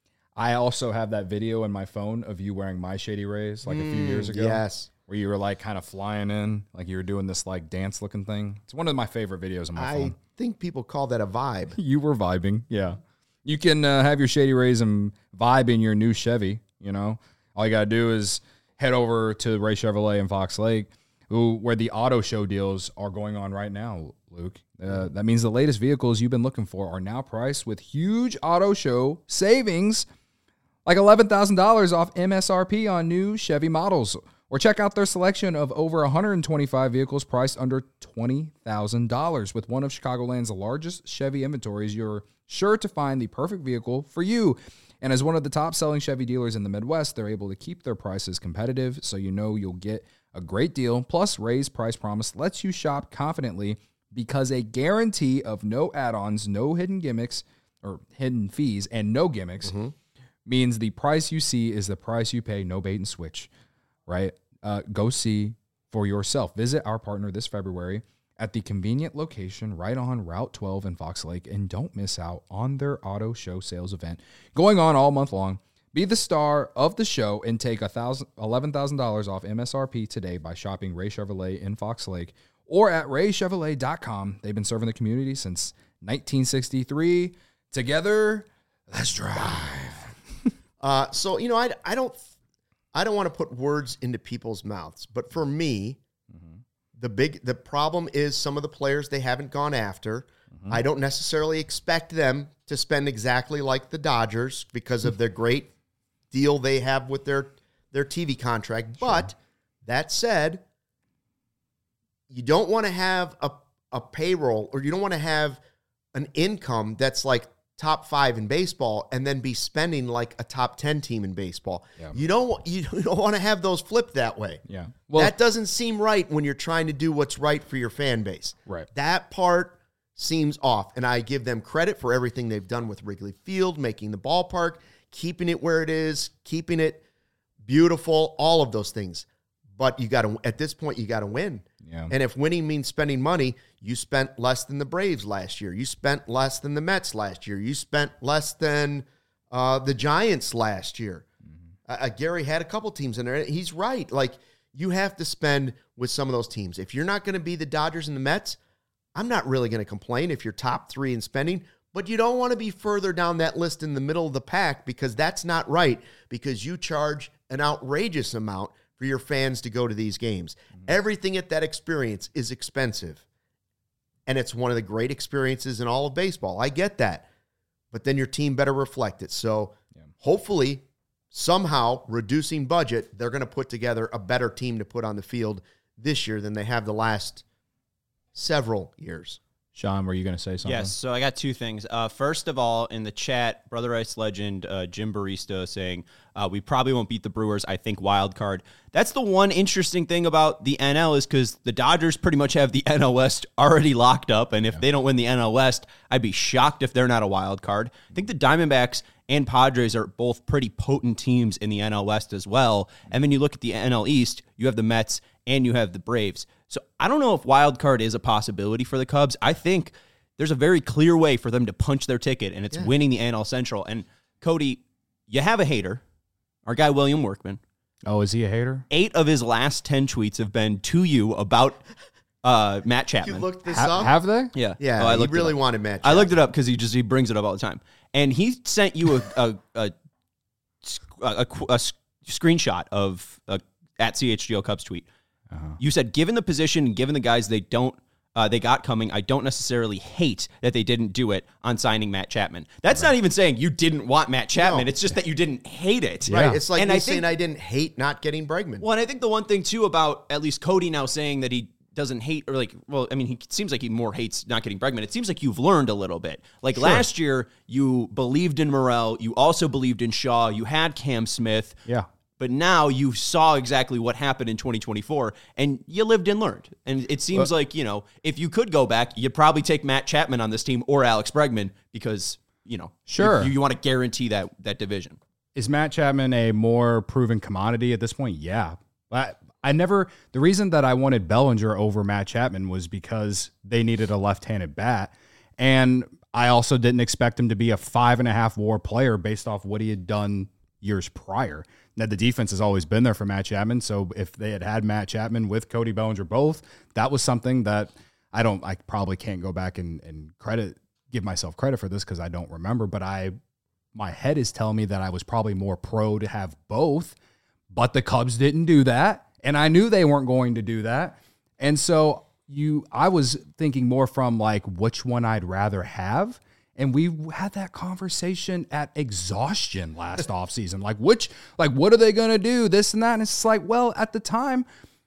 I also have that video in my phone of you wearing my Shady Rays like mm, a few years ago. Yes. Where you were like kind of flying in, like you were doing this like dance looking thing. It's one of my favorite videos on my I phone. I think people call that a vibe. You were vibing, yeah. You can uh, have your Shady Rays and vibe in your new Chevy, you know. All you got to do is head over to Ray Chevrolet in Fox Lake, who, where the auto show deals are going on right now, Luke. Uh, that means the latest vehicles you've been looking for are now priced with huge auto show savings, like eleven thousand dollars off M S R P on new Chevy models. Or check out their selection of over one hundred twenty-five vehicles priced under twenty thousand dollars. With one of Chicagoland's largest Chevy inventories, you're sure to find the perfect vehicle for you. And as one of the top-selling Chevy dealers in the Midwest, they're able to keep their prices competitive, so you know you'll get a great deal. Plus, Ray's Price Promise lets you shop confidently because a guarantee of no add-ons, no hidden gimmicks, or hidden fees, and no gimmicks mm-hmm. means the price you see is the price you pay, no bait and switch, right? Uh, go see for yourself. Visit our partner this February at the convenient location right on Route twelve in Fox Lake, and don't miss out on their auto show sales event going on all month long. Be the star of the show and take eleven thousand dollars off M S R P today by shopping Ray Chevrolet in Fox Lake or at ray chevrolet dot com. They've been serving the community since nineteen sixty-three. Together, let's drive. uh, so, you know, I, I don't I don't want to put words into people's mouths, but for me, mm-hmm. the big the problem is some of the players they haven't gone after. Mm-hmm. I don't necessarily expect them to spend exactly like the Dodgers because of the great deal they have with their, their T V contract. Sure. But that said, you don't want to have a, a payroll or you don't want to have an income that's like top five in baseball and then be spending like a top ten team in baseball. Yeah. You don't you don't want to have those flip that way. Yeah. Well, that doesn't seem right when you're trying to do what's right for your fan base. Right. That part seems off, and I give them credit for everything they've done with Wrigley Field, making the ballpark, keeping it where it is, keeping it beautiful, all of those things. But you got to at this point you got to win. Yeah. And if winning means spending money, you spent less than the Braves last year. You spent less than the Mets last year. You spent less than uh, the Giants last year. Mm-hmm. Uh, Gary had a couple teams in there. He's right. Like, you have to spend with some of those teams. If you're not going to be the Dodgers and the Mets, I'm not really going to complain if you're top three in spending. But you don't want to be further down that list in the middle of the pack because that's not right, because you charge an outrageous amount for your fans to go to these games. Mm-hmm. Everything at that experience is expensive. And it's one of the great experiences in all of baseball. I get that. But then your team better reflect it. So yeah. hopefully, somehow, reducing budget, they're going to put together a better team to put on the field this year than they have the last several years. Sean, were you going to say something? Yes, so I got two things. Uh, first of all, in the chat, Brother Ice legend uh, Jim Barista saying, uh, we probably won't beat the Brewers, I think wild card. That's the one interesting thing about the N L is because the Dodgers pretty much have the N L West already locked up, and if yeah. they don't win the N L West, I'd be shocked if they're not a wild card. I think the Diamondbacks and Padres are both pretty potent teams in the N L West as well. And then you look at the N L East, you have the Mets and you have the Braves. So I don't know if wild card is a possibility for the Cubs. I think there's a very clear way for them to punch their ticket, and it's yeah. winning the N L Central. And Cody, you have a hater, our guy William Workman. Oh, is he a hater? Eight of his last ten tweets have been to you about uh, Matt Chapman. You looked this ha- up? Have they? Yeah. Yeah, oh, I he really it wanted Matt Chapman. I looked it up because he just he brings it up all the time. And he sent you a a, a, a, a, a screenshot of a, at C H G O Cubs tweet. Uh-huh. You said, given the position, given the guys they don't, uh, they got coming, I don't necessarily hate that they didn't do it on signing Matt Chapman. That's right. Not even saying you didn't want Matt Chapman. No. It's just that you didn't hate it. Right. It's like and me I saying think, I didn't hate not getting Bregman. Well, and I think the one thing, too, about at least Cody now saying that he doesn't hate, or like, well, I mean, he seems like he more hates not getting Bregman. It seems like you've learned a little bit. Like sure. last year, you believed in Morel. You also believed in Shaw. You had Cam Smith. Yeah. But now you saw exactly what happened in twenty twenty-four, and you lived and learned. And it seems well, like, you know, if you could go back, you'd probably take Matt Chapman on this team or Alex Bregman because, you know, sure. you, you want to guarantee that that division. Is Matt Chapman a more proven commodity at this point? Yeah. I, I never, the reason that I wanted Bellinger over Matt Chapman was because they needed a left-handed bat. And I also didn't expect him to be a five and a half WAR player based off what he had done years prior. Now, the defense has always been there for Matt Chapman, so if they had had Matt Chapman with Cody Bellinger both, that was something that I don't, I probably can't go back and, and credit, give myself credit for this because I don't remember, but I, my head is telling me that I was probably more pro to have both, but the Cubs didn't do that, and I knew they weren't going to do that, and so you, I was thinking more from like which one I'd rather have. And we had that conversation at exhaustion last offseason. Like, which, like, what are they going to do? This and that. And it's like, well, at the time,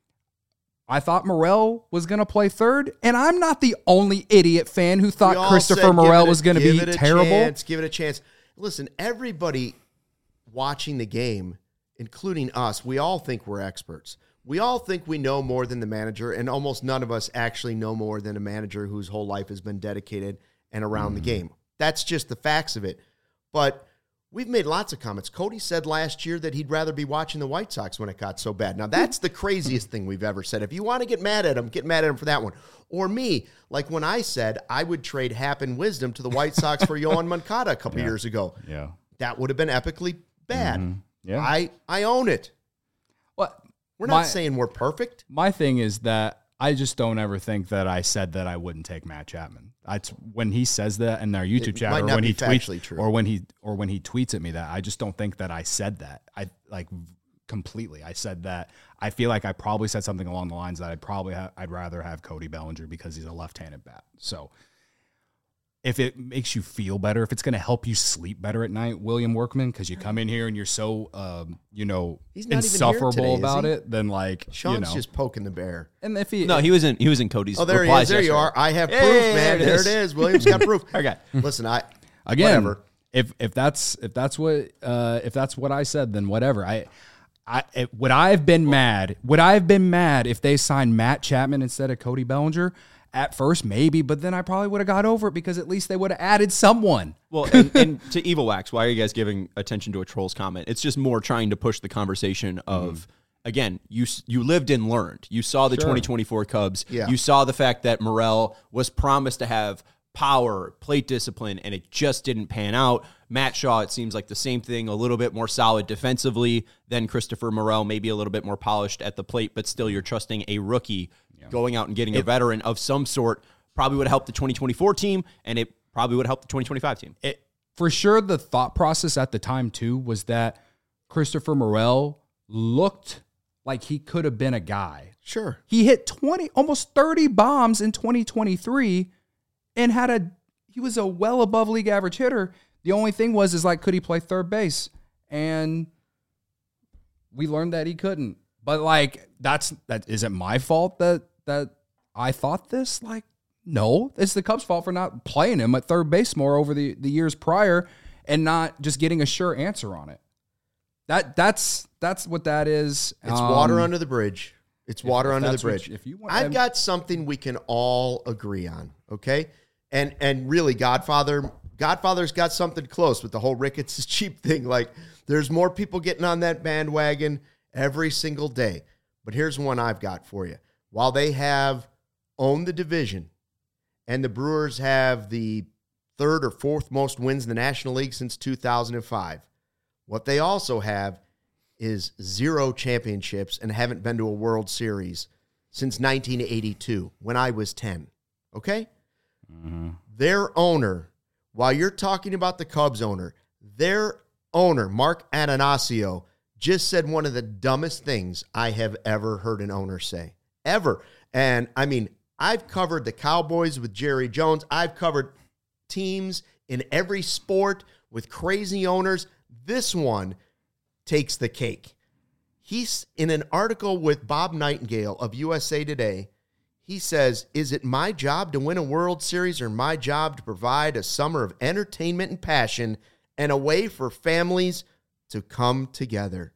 I thought Morel was going to play third. And I'm not the only idiot fan who thought Christopher Morel was going to be terrible. Chance, give it a chance. Listen, everybody watching the game, including us, we all think we're experts. We all think we know more than the manager, and almost none of us actually know more than a manager whose whole life has been dedicated and around mm. the game. That's just the facts of it. But we've made lots of comments. Cody said last year that he'd rather be watching the White Sox when it got so bad. Now, that's the craziest thing we've ever said. If you want to get mad at him, get mad at him for that one. Or me, like when I said I would trade Happ and Wisdom to the White Sox for Yohan Moncada a couple yeah. years ago. Yeah. That would have been epically bad. Mm-hmm. Yeah. I, I own it. Well, we're not my, saying we're perfect. My thing is that I just don't ever think that I said that I wouldn't take Matt Chapman. I, when he says that in our YouTube it chat, or when he tweets, true. or when he or when he tweets at me that, I just don't think that I said that. I like completely. I said that. I feel like I probably said something along the lines that I'd probably ha- I'd rather have Cody Bellinger because he's a left-handed bat. So if it makes you feel better, if it's going to help you sleep better at night, William Workman, because you come in here and you're so, um, you know, He's not insufferable even here today, about is he? it, then like, Sean's you know. just poking the bear. And if he, no, he was in he was in Cody's. Oh, there he is. There yesterday. you are. I have Hey, proof, man. there it There is. it is. William's got proof. Okay. Listen, I again, whatever. if if that's if that's what uh, if that's what I said, then whatever. I. I, it, would I have been mad? Would I have been mad if they signed Matt Chapman instead of Cody Bellinger? At first, maybe, but then I probably would have got over it because at least they would have added someone. Well, and, and to Evil Wax, why are you guys giving attention to a troll's comment? It's just more trying to push the conversation of, mm. again, you you lived and learned. You saw the sure. twenty twenty-four Cubs. Yeah. You saw the fact that Morel was promised to have power, plate discipline, and it just didn't pan out. Matt Shaw, it seems like the same thing, a little bit more solid defensively than Christopher Morel, maybe a little bit more polished at the plate, but still you're trusting a rookie yeah. going out and getting it, a veteran of some sort. Probably would have helped the twenty twenty-four team, and it probably would have helped the twenty twenty-five team. It, for sure, the thought process at the time, too, was that Christopher Morel looked like he could have been a guy. Sure. He hit twenty, almost thirty bombs in twenty twenty-three and had a, he was a well above league average hitter. The only thing was, is like, could he play third base? And we learned that he couldn't. But like, that's, that, is it my fault that, that I thought this? Like, no, it's the Cubs' fault for not playing him at third base more over the, the years prior and not just getting a sure answer on it. That that's that's what that is. It's um, water under the bridge. It's water if under the that's what bridge. you- if you want- I've got something we can all agree on, okay? And and really, Godfather Godfather's got something close with the whole Ricketts is cheap thing. Like, there's more people getting on that bandwagon every single day. But here's one I've got for you. While they have owned the division and the Brewers have the third or fourth most wins in the National League since two thousand five, what they also have is zero championships and haven't been to a World Series since nineteen eighty-two, when I was ten. Okay? Mm-hmm. Their owner, while you're talking about the Cubs owner, their owner, Mark Atanasio, just said one of the dumbest things I have ever heard an owner say. Ever. And, I mean, I've covered the Cowboys with Jerry Jones. I've covered teams in every sport with crazy owners. This one takes the cake. He's in an article with Bob Nightingale of U S A Today. He says, is it my job to win a World Series or my job to provide a summer of entertainment and passion and a way for families to come together?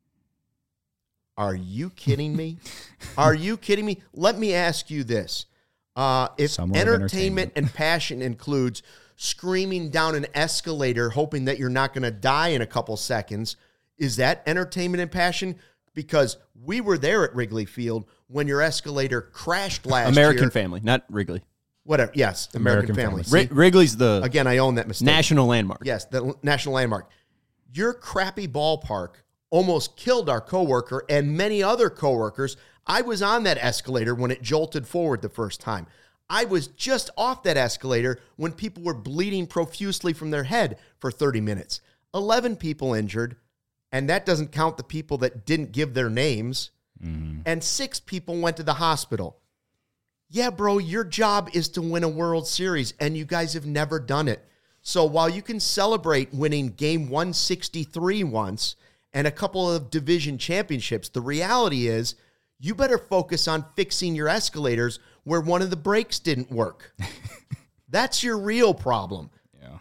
Are you kidding me? Are you kidding me? Let me ask you this. Uh, if Summer of entertainment, entertainment. and passion includes screaming down an escalator hoping that you're not going to die in a couple seconds, is that entertainment and passion? Because we were there at Wrigley Field when your escalator crashed last American year. Family, not Wrigley. Whatever. Yes, American, American Family. Family. See? Ri- Wrigley's the Again, I own that mistake. national landmark. Yes, the l- national landmark. Your crappy ballpark almost killed our coworker and many other coworkers. I was on that escalator when it jolted forward the first time. I was just off that escalator when people were bleeding profusely from their head for thirty minutes. eleven people injured, and that doesn't count the people that didn't give their names. Mm-hmm. And six people went to the hospital. Yeah, bro, your job is to win a World Series, and you guys have never done it. So while you can celebrate winning game one sixty-three once and a couple of division championships, the reality is you better focus on fixing your escalators where one of the brakes didn't work. That's your real problem. Yeah.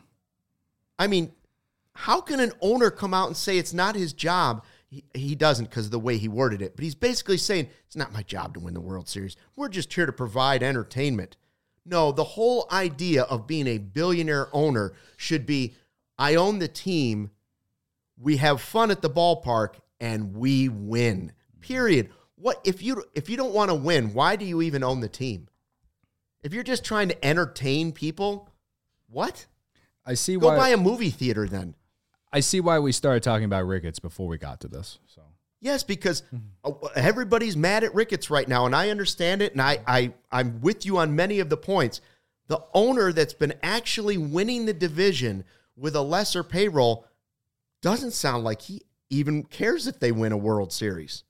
I mean, how can an owner come out and say it's not his job? He, he doesn't because of the way he worded it, but he's basically saying it's not my job to win the World Series. We're just here to provide entertainment. No, the whole idea of being a billionaire owner should be, I own the team, we have fun at the ballpark, and we win. Period. What if you if you don't want to win, why do you even own the team? If you're just trying to entertain people, what? I see Go why buy a movie theater then. I see why we started talking about Ricketts before we got to this. So Yes, because everybody's mad at Ricketts right now, and I understand it, and I, I, I'm with you on many of the points. The owner that's been actually winning the division with a lesser payroll doesn't sound like he even cares if they win a World Series.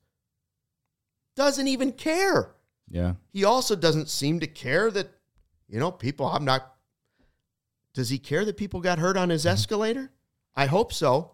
Doesn't even care. yeah. He also doesn't seem to care that, you know, people, I'm not, does he care that people got hurt on his escalator? I hope so.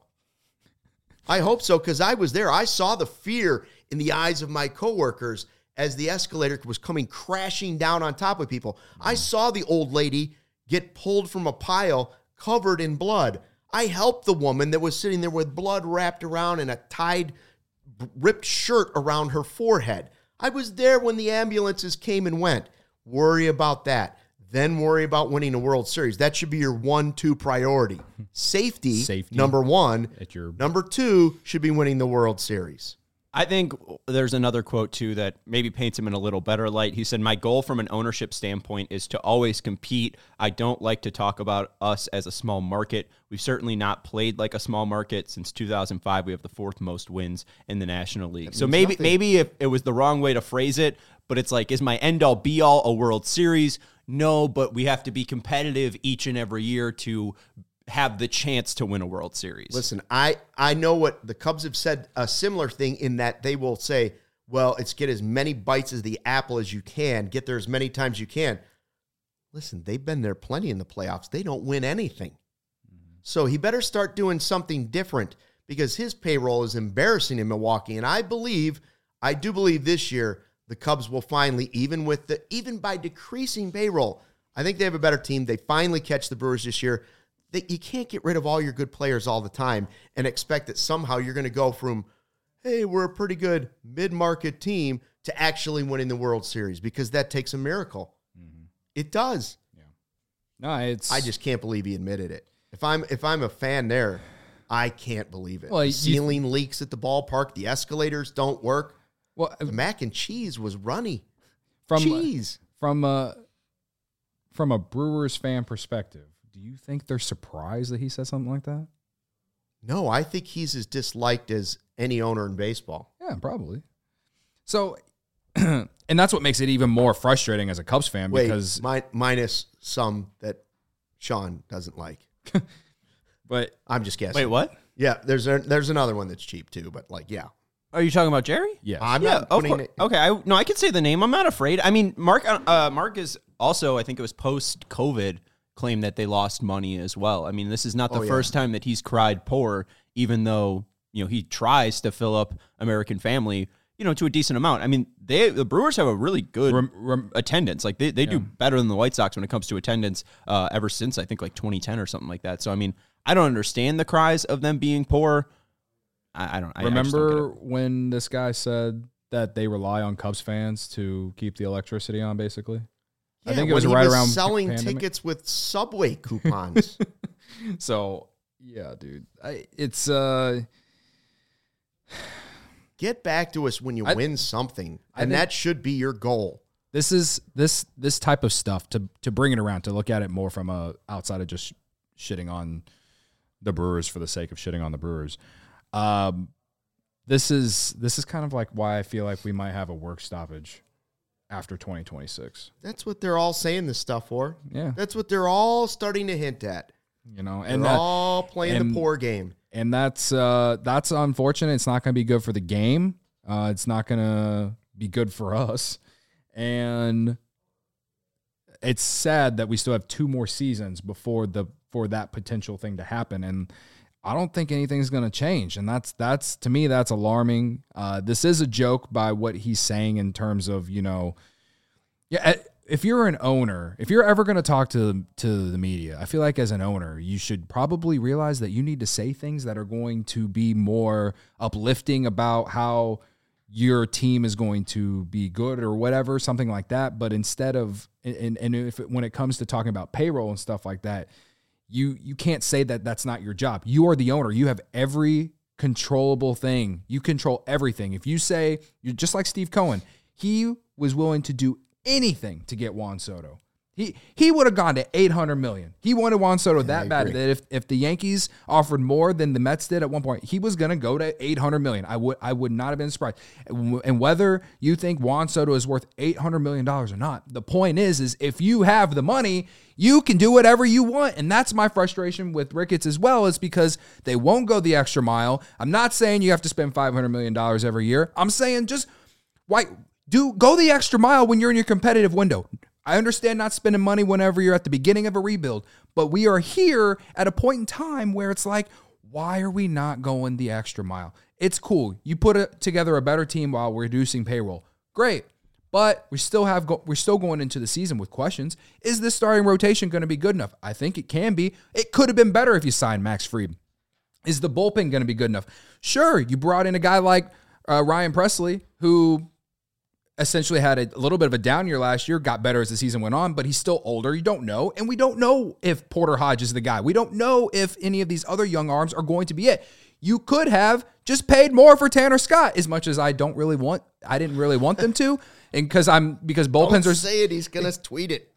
I hope so, because I was there. I saw the fear in the eyes of my coworkers as the escalator was coming crashing down on top of people. I saw the old lady get pulled from a pile covered in blood. I helped the woman that was sitting there with blood wrapped around and a tied, ripped shirt around her forehead. I was there when the ambulances came and went. Worry about that. Then worry about winning a World Series. That should be your one, two priority. Safety, Safety. number one. At your Number two should be winning the World Series. I think there's another quote, too, that maybe paints him in a little better light. He said, my goal from an ownership standpoint is to always compete. I don't like to talk about us as a small market. We've certainly not played like a small market. Since two thousand five, we have the fourth most wins in the National League. So maybe nothing. maybe if it was the wrong way to phrase it, but it's like, is my end-all, be-all a World Series? No, but we have to be competitive each and every year to have the chance to win a World Series. Listen, I, I know what the Cubs have said, a similar thing in that they will say, well, it's get as many bites as the apple as you can, get there as many times you can. Listen, they've been there plenty in the playoffs. They don't win anything. Mm-hmm. So he better start doing something different because his payroll is embarrassing in Milwaukee. And I believe, I do believe this year, the Cubs will finally, even with the, even by decreasing payroll, I think they have a better team. They finally catch the Brewers this year. They, you can't get rid of all your good players all the time and expect that somehow you're going to go from, hey, we're a pretty good mid-market team to actually winning the World Series because that takes a miracle. Mm-hmm. It does. Yeah. No, it's I just can't believe he admitted it. If I'm if I'm a fan there, I can't believe it. Well, the you- ceiling leaks at the ballpark. The escalators don't work. well The mac and cheese was runny. from cheese. from a from a Brewers fan perspective. Do you think they're surprised that he said something like that? No, I think he's as disliked as any owner in baseball. Yeah, probably. So, and that's what makes it even more frustrating as a Cubs fan Wait, because, mi- minus some that Sean doesn't like. but I'm just guessing. Wait, what? Yeah, there's a, there's another one that's cheap too, but like, yeah. Are you talking about Jerry? yeah, I'm Yeah, not of putting course. it. Okay, I, no, I could say the name. I'm not afraid. I mean, Mark. Uh, Mark is also. I think it was post COVID claim that they lost money as well. I mean, this is not the Oh, yeah. first time that he's cried poor, even though you know he tries to fill up American Family, you know, to a decent amount. I mean, they the Brewers have a really good Rem- rem- attendance. Like they, they Yeah. do better than the White Sox when it comes to attendance. Uh, ever since I think like twenty ten or something like that. So I mean, I don't understand the cries of them being poor. I, I don't. I, I just don't get remember it. when this guy said that they rely on Cubs fans to keep the electricity on, basically? I Yeah, think it when was he right was around selling pandemic. tickets with Subway coupons. So, yeah, dude. I, it's, uh, Get back to us when you I- win something, I and think- that should be your goal. this is this this type of stuff to to bring it around, to look at it more from a outside of just shitting on the Brewers for the sake of shitting on the Brewers. Um, this is this is kind of like why I feel like we might have a work stoppage after twenty twenty-six. That's what they're all saying this stuff for. Yeah, That's what they're all starting to hint at. you know, They're and that, all playing and- the poor game. and that's uh, that's unfortunate. It's not going to be good for the game. Uh, it's not going to be good for us, and it's sad that we still have two more seasons before the for that potential thing to happen. And I don't think anything's going to change. And that's that's to me that's alarming. Uh, this is a joke by what he's saying in terms of, you know, yeah. If you're an owner, if you're ever going to talk to to the media, I feel like as an owner, you should probably realize that you need to say things that are going to be more uplifting about how your team is going to be good or whatever, something like that. But instead of, and, and if it, when it comes to talking about payroll and stuff like that, you you can't say that that's not your job. You are the owner. You have every controllable thing. You control everything. If you say, you're just like Steve Cohen, he was willing to do anything to get Juan Soto. He he would have gone to eight hundred million. He wanted Juan Soto that bad agree. that if, if the Yankees offered more than the Mets did at one point, he was going to go to eight hundred million. I would I would not have been surprised. And whether you think Juan Soto is worth eight hundred million dollars or not, the point is is if you have the money, you can do whatever you want. And that's my frustration with Ricketts as well, is because they won't go the extra mile. I'm not saying you have to spend five hundred million dollars every year. I'm saying just why do go the extra mile when you're in your competitive window. I understand not spending money whenever you're at the beginning of a rebuild, but we are here at a point in time where it's like, why are we not going the extra mile? It's cool. You put a, together a better team while reducing payroll. Great. But we still have go, we're still going into the season with questions. Is this starting rotation going to be good enough? I think it can be. It could have been better if you signed Max Fried. Is the bullpen going to be good enough? Sure, you brought in a guy like uh, Ryan Presley, who essentially had a little bit of a down year last year, got better as the season went on, but he's still older. You don't know. And we don't know if Porter Hodge is the guy. We don't know if any of these other young arms are going to be it. You could have just paid more for Tanner Scott, as much as I don't really want, I didn't really want them to. And because I'm, because bullpens Don't are, say it. He's going to tweet it.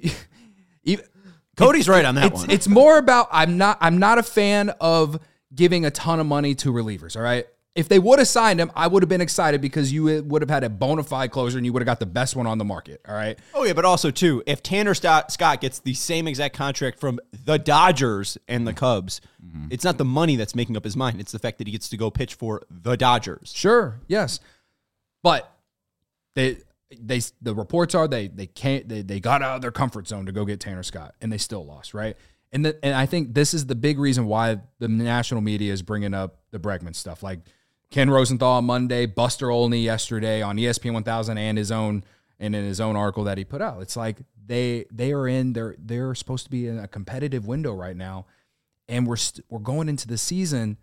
even, Cody's right on that it's, one. It's more about, I'm not, I'm not a fan of giving a ton of money to relievers. All right. If they would have signed him, I would have been excited because you would have had a bona fide closer and you would have got the best one on the market. All right. Oh, yeah, but also, too, if Tanner Scott Scott gets the same exact contract from the Dodgers and the Cubs, mm-hmm. it's not the money that's making up his mind. It's the fact that he gets to go pitch for the Dodgers. Sure. Yes. But they, they, the reports are they, they can't, they, they got out of their comfort zone to go get Tanner Scott and they still lost. Right. And the, and I think this is the big reason why the national media is bringing up the Bregman stuff. Like, Ken Rosenthal on Monday, Buster Olney yesterday on E S P N one thousand, and his own and in his own article that he put out. It's like they they are in they're they're supposed to be in a competitive window right now, and we're st- we're going into the season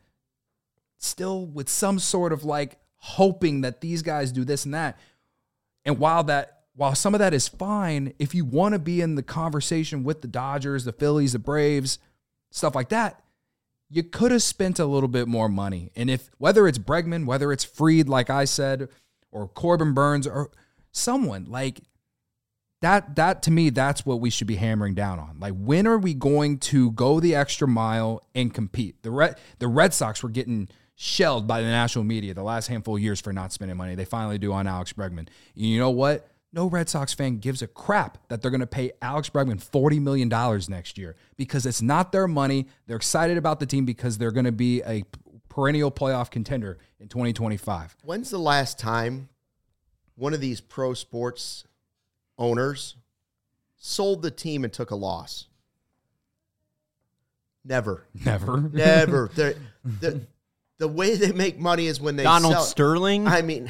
still with some sort of like hoping that these guys do this and that. And while that while some of that is fine, if you want to be in the conversation with the Dodgers, the Phillies, the Braves, stuff like that, you could have spent a little bit more money. And if whether it's Bregman, whether it's Fried, like I said, or Corbin Burns, or someone like that, that to me, that's what we should be hammering down on. Like, when are we going to go the extra mile and compete? The Red, the Red Sox were getting shelled by the national media the last handful of years for not spending money. They finally do on Alex Bregman. And you know what? No Red Sox fan gives a crap that they're going to pay Alex Bregman forty million dollars next year because it's not their money. They're excited about the team because they're going to be a perennial playoff contender in twenty twenty-five. When's the last time one of these pro sports owners sold the team and took a loss? Never. Never. Never. They're, they're, the way they make money is when they Donald sell. Sterling. I mean,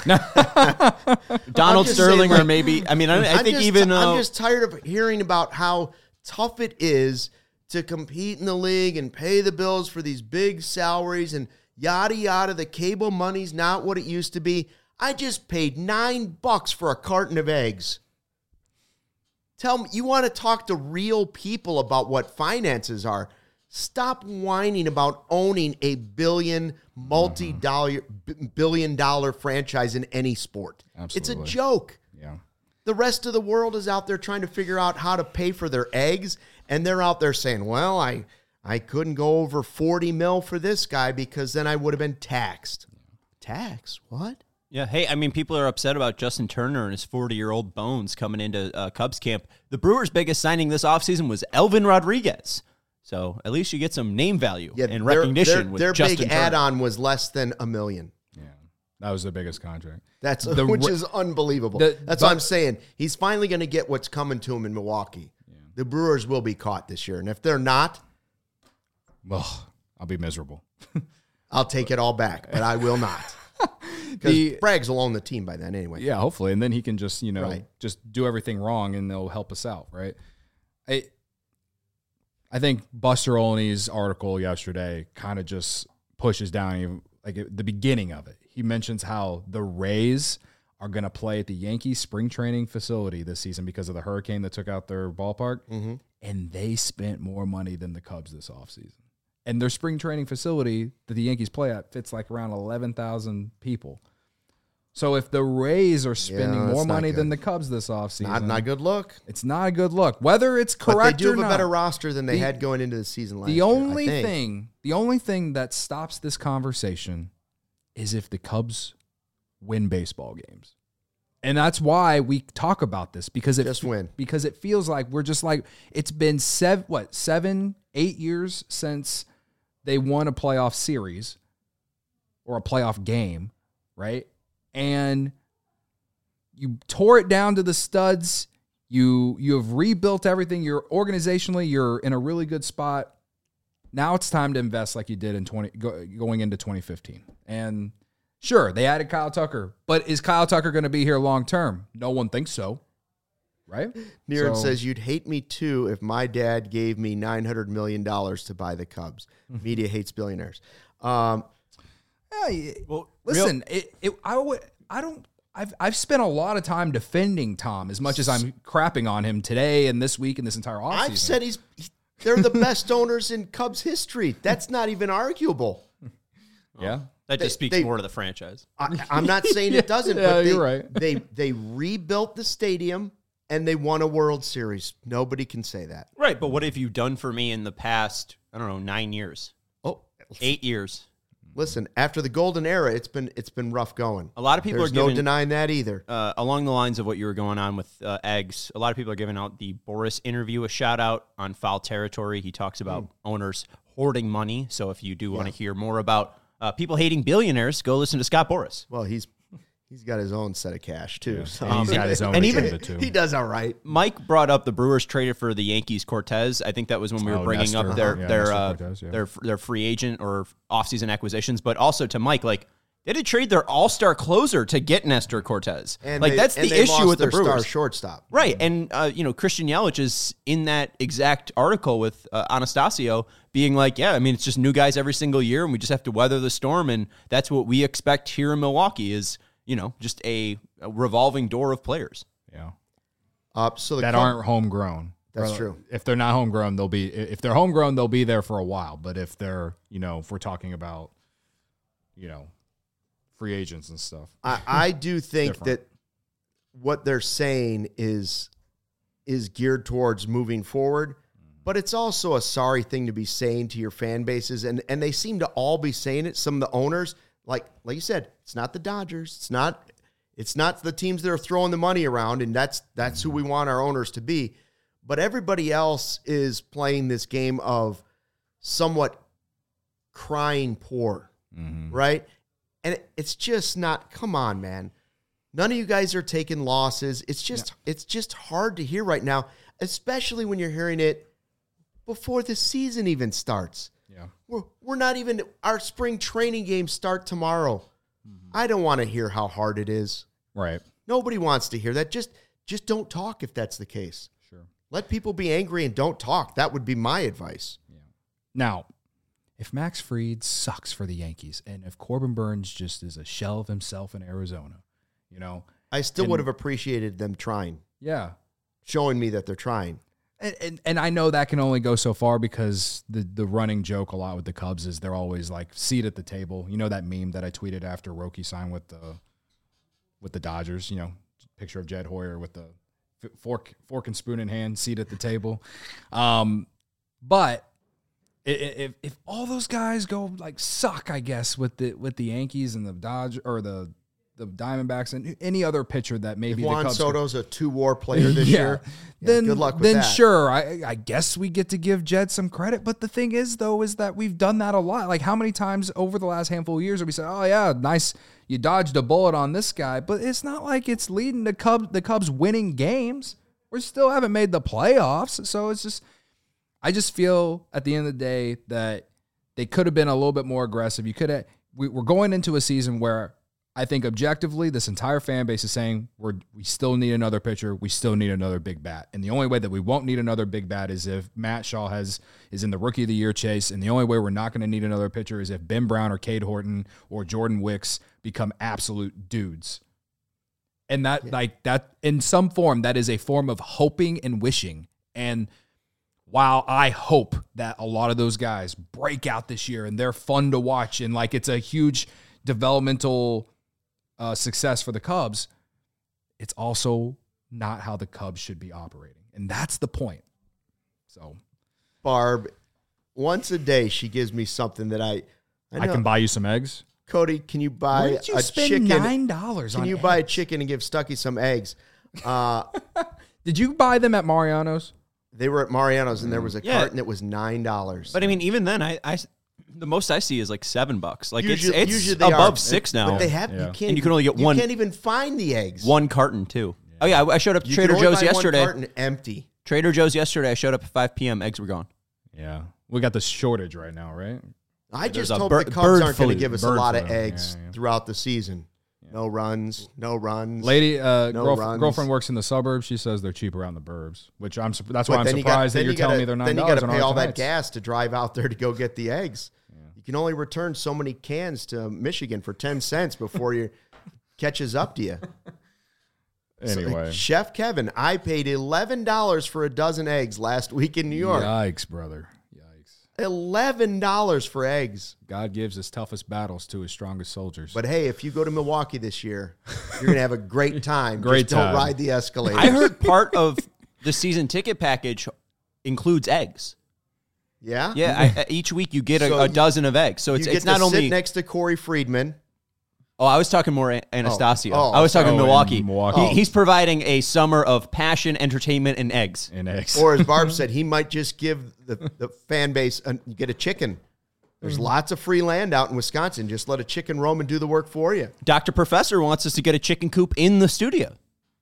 Donald just Sterling, saying, like, or maybe. I mean, I, I I'm think just, even. Uh, I'm just tired of hearing about how tough it is to compete in the league and pay the bills for these big salaries and yada yada. The cable money's not what it used to be. I just paid nine bucks for a carton of eggs. Tell me, you want to talk to real people about what finances are. Stop whining about owning a billion, multi-dollar, b- billion dollar franchise in any sport. Absolutely. It's a joke. Yeah. The rest of the world is out there trying to figure out how to pay for their eggs, and they're out there saying, well, I, I couldn't go over forty mil for this guy because then I would have been taxed. Tax? What? Yeah, hey, I mean, people are upset about Justin Turner and his forty-year-old bones coming into uh, Cubs camp. The Brewers' biggest signing this offseason was Elvin Rodriguez. So at least you get some name value Yeah, and their- recognition Their, with their Justin big Turner. add-on was less than a million. Yeah. That was the biggest contract. That's The which re- is unbelievable. the- That's but- what I'm saying. He's finally going to get what's coming to him in Milwaukee. The Brewers will be caught this year, and if they're not, Well, I'll be miserable. I'll take it all back. But I will not, because The- Braggs will own the team by then anyway. Yeah, hopefully. And then he can just, you know, Right. just do everything wrong and they'll help us out, right? I I think Buster Olney's article yesterday kind of just pushes down even, like at the beginning of it. He mentions how the Rays are going to play at the Yankees spring training facility this season because of the hurricane that took out their ballpark. Mm-hmm. And they spent more money than the Cubs this offseason. And their spring training facility that the Yankees play at fits like around eleven thousand people. So if the Rays are spending Yeah, that's more not money good. than the Cubs this offseason, Not, not a good look. it's not a good look. Whether it's But correct they do or have a not, better roster than they The- had going into the season last the year. I only think. thing, the only thing that stops this conversation is if the Cubs win baseball games. And that's why we talk about this, because it Just win. because it feels like we're just like, it's been seven what seven eight years since they won a playoff series or a playoff game, right? And you tore it down to the studs. You you have rebuilt everything. You're organizationally, you're in a really good spot. Now it's time to invest like you did in twenty go, going into twenty fifteen. And sure, they added Kyle Tucker, but is Kyle Tucker going to be here long term? No one thinks so, right? Neeraj So- says, you'd hate me too if my dad gave me nine hundred million dollars to buy the Cubs. Media hates billionaires. Um, Yeah, Well, listen, it, it, I would, I don't, I've, I've spent a lot of time defending Tom as much as I'm crapping on him today and this week and this entire offseason. I've said he's he- they're the best owners in Cubs history. That's not even arguable. yeah. That They- just speaks they- more to the franchise. I, I'm not saying it doesn't, Yeah, but they, you're right. they they rebuilt the stadium and they won a World Series. Nobody can say that. Right, but what have you done for me in the past, I don't know, nine years, Oh, eight years? listen, after the golden era, it's been it's been rough going. A lot of people There's are no giving, denying that either. uh, along the lines of what you were going on with uh, eggs, a lot of people are giving out the Boris interview a shout out on Foul Territory. He talks about owners hoarding money. So if you do want to hear more about uh, people hating billionaires, go listen to Scott Boris. Well, he's he's got his own set of cash too. Yeah, so and he's got his own and even- agenda, too. he does all right. Mike brought up the Brewers traded for the Yankees Cortez. I think that was when we were Oh, bringing Nestor. up their Yeah, their Nestor uh, Cortez, yeah. their their free agent or offseason acquisitions, but also to Mike, like they did trade their all-star closer to get Nestor Cortez. And like they- that's and the they issue lost with the their star Brewers. shortstop. Right, and uh, you know Christian Yelich is in that exact article with uh, Anastasio, being like, "Yeah, I mean it's just new guys every single year, and we just have to weather the storm, and that's what we expect here in Milwaukee is, you know, just a, a revolving door of players." Yeah. Uh, so the that Cub- aren't homegrown. That's Or, true. If they're not homegrown, they'll be. If they're homegrown, they'll be there for a while. But if they're, you know, if we're talking about, you know, free agents and stuff, I, I do think Different. that what they're saying is is geared towards moving forward, but it's also a sorry thing to be saying to your fan bases, and and they seem to all be saying it. Some of the owners, like like you said, it's not the Dodgers, it's not it's not the teams that are throwing the money around, and that's that's who we want our owners to be. But everybody else is playing this game of somewhat crying poor, mm-hmm. right? And it, it's just not. Come on, man. None of you guys are taking losses. It's just yeah. it's just hard to hear right now, especially when you're hearing it before the season even starts. Yeah. We're we're not even our spring training games start tomorrow. Mm-hmm. I don't want to hear how hard it is. Right. Nobody wants to hear that. Just just don't talk if that's the case. Sure. Let people be angry and don't talk. That would be my advice. Yeah. Now, if Max Fried sucks for the Yankees and if Corbin Burns just is a shell of himself in Arizona, you know, I still and, would have appreciated them trying. Yeah. Showing me that they're trying. And, and and I know that can only go so far because the, the running joke a lot with the Cubs is they're always like seat at the table. You know that meme that I tweeted after Roki signed with the with the Dodgers, you know, picture of Jed Hoyer with the fork fork and spoon in hand, seat at the table. Um, but if if all those guys go like suck, I guess with the with the Yankees and the Dodgers or the the Diamondbacks and any other pitcher that maybe if Juan the Cubs Soto's a two-war player this yeah. year, yeah, then good luck with then that. sure, I, I guess we get to give Jed some credit. But the thing is, though, is that we've done that a lot. Like how many times over the last handful of years have we said, "Oh yeah, nice, you dodged a bullet on this guy," but it's not like it's leading to Cubs the Cubs winning games. We still haven't made the playoffs, so it's just I just feel at the end of the day that they could have been a little bit more aggressive. You could have. We, we're going into a season where I think objectively, this entire fan base is saying we're we still need another pitcher. We still need another big bat. And the only way that we won't need another big bat is if Matt Shaw has is in the Rookie of the Year chase. And the only way we're not going to need another pitcher is if Ben Brown or Cade Horton or Jordan Wicks become absolute dudes. And that, yeah. like that, in some form, that is a form of hoping and wishing. And while I hope that a lot of those guys break out this year and they're fun to watch and like it's a huge developmental Uh, success for the Cubs, it's also not how the Cubs should be operating. And that's the point. So, Barb, once a day, she gives me something that I I, I can buy you some eggs. Cody, can you buy Where did you a spend chicken? nine dollars on Can you eggs? buy a chicken and give Stucky some eggs? Uh, Did you buy them at Mariano's? they were at Mariano's, and there was a Yeah. carton that was nine dollars. But I mean, even then, I, I the most I see is like seven bucks. Like Usually- it's usually it's they above are. six now. But they have Yeah. you can't And you can only get one- You can't even find the eggs. One carton too. Oh yeah, I I showed up to You Trader can only Joe's buy one yesterday. carton empty. Trader Joe's yesterday. I showed up at five p.m. Eggs were gone. Yeah. We got the shortage right now, right? I There's just a hope bird- the Cubs bird aren't going to flu. give us a Bird lot of flu. eggs Yeah, yeah. throughout the season. No runs, no runs. Lady, uh, No girlf- runs. girlfriend works in the suburbs. She says they're cheap around the burbs, which I'm. Su- that's But why I'm then you got- surprised then that you're you telling gotta- me they're nine Then you dollars. got to pay all that gas to drive out there to go get the eggs. You can only return so many cans to Michigan for ten cents before you catches up to you. So, Anyway, Chef Kevin, I paid eleven dollars for a dozen eggs last week in New York. yikes, brother, yikes! eleven dollars for eggs. God gives his toughest battles to his strongest soldiers. But hey, if you go to Milwaukee this year, you're going to have a great time. Great Just time. don't ride the escalator. I heard part of the season ticket package includes eggs. Yeah? Yeah, I, I- each week you get a, So a dozen of eggs. So You it's get it's not to only. sit next to Corey Friedman. Oh, I was talking more Anastasio. Oh, I was talking oh, in Milwaukee. Milwaukee. He- he's providing a summer of passion, entertainment, and eggs. and eggs. Or as Barb said, he might just give the, the fan base, a, you get a chicken. There's lots of free land out in Wisconsin. Just let a chicken roam and do the work for you. Doctor Professor wants us to get a chicken coop in the studio.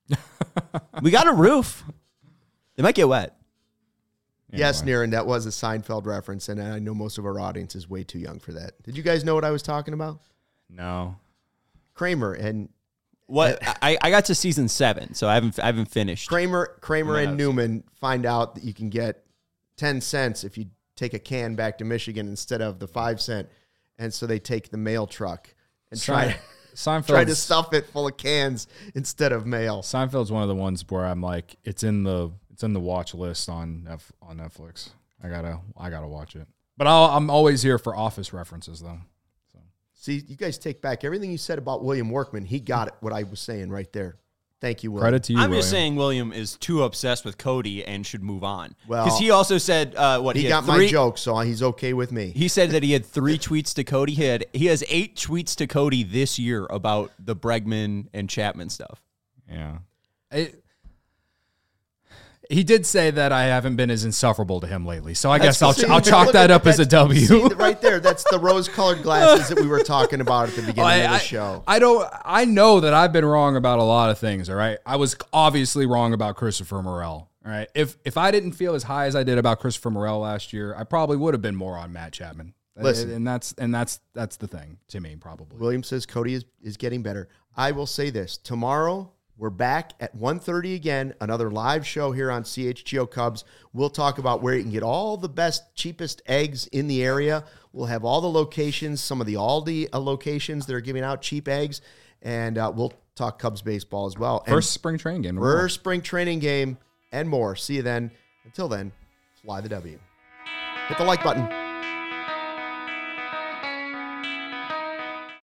We got a roof. They might get wet. Yes, Niren, that was a Seinfeld reference, and I know most of our audience is way too young for that. Did you guys know what I was talking about? no. Kramer and What I, I got to season seven, so I haven't I haven't finished. Kramer, Kramer Yeah, and I've Newman find out that you can get ten cents if you take a can back to Michigan instead of the five cent, and so they take the mail truck and try. Seinfeld Trying to stuff it full of cans instead of mail. Seinfeld's one of the ones where I'm like, it's in the it's in the watch list on F, on Netflix. I gotta I gotta watch it. But I'll, I'm always here for Office references, though. So. See, you guys take back everything you said about William Workman. He got it, what I was saying right there. Thank you, William. Credit to you, I'm William. just saying William is too obsessed with Cody and should move on. Well, because he also said uh, what He, he, got had three, my joke, so he's okay with me. He said that he had three tweets to Cody. He had he has eight tweets to Cody this year about the Bregman and Chapman stuff. Yeah. It, he did say that I haven't been as insufferable to him lately, so I That's guess I'll, see, I'll chalk look that at- up as a that's- W. see, right there, that's the rose-colored glasses that we were talking about at the beginning I, of the I- show. I don't. I know that I've been wrong about a lot of things. All right, I was obviously wrong about Christopher Morel. All right, if if I didn't feel as high as I did about Christopher Morel last year, I probably would have been more on Matt Chapman. Listen. and that's and that's that's the thing to me, probably. William says Cody is, is getting better. I will say this. Tomorrow, we're back at one thirty again, another live show here on C H G O Cubs. We'll talk about where you can get all the best, cheapest eggs in the area. We'll have all the locations, some of the Aldi uh, locations that are giving out cheap eggs, and uh, we'll talk Cubs baseball as well. And First spring training game. tomorrow. first spring training game and more. See you then. Until then, fly the W. Hit the like button.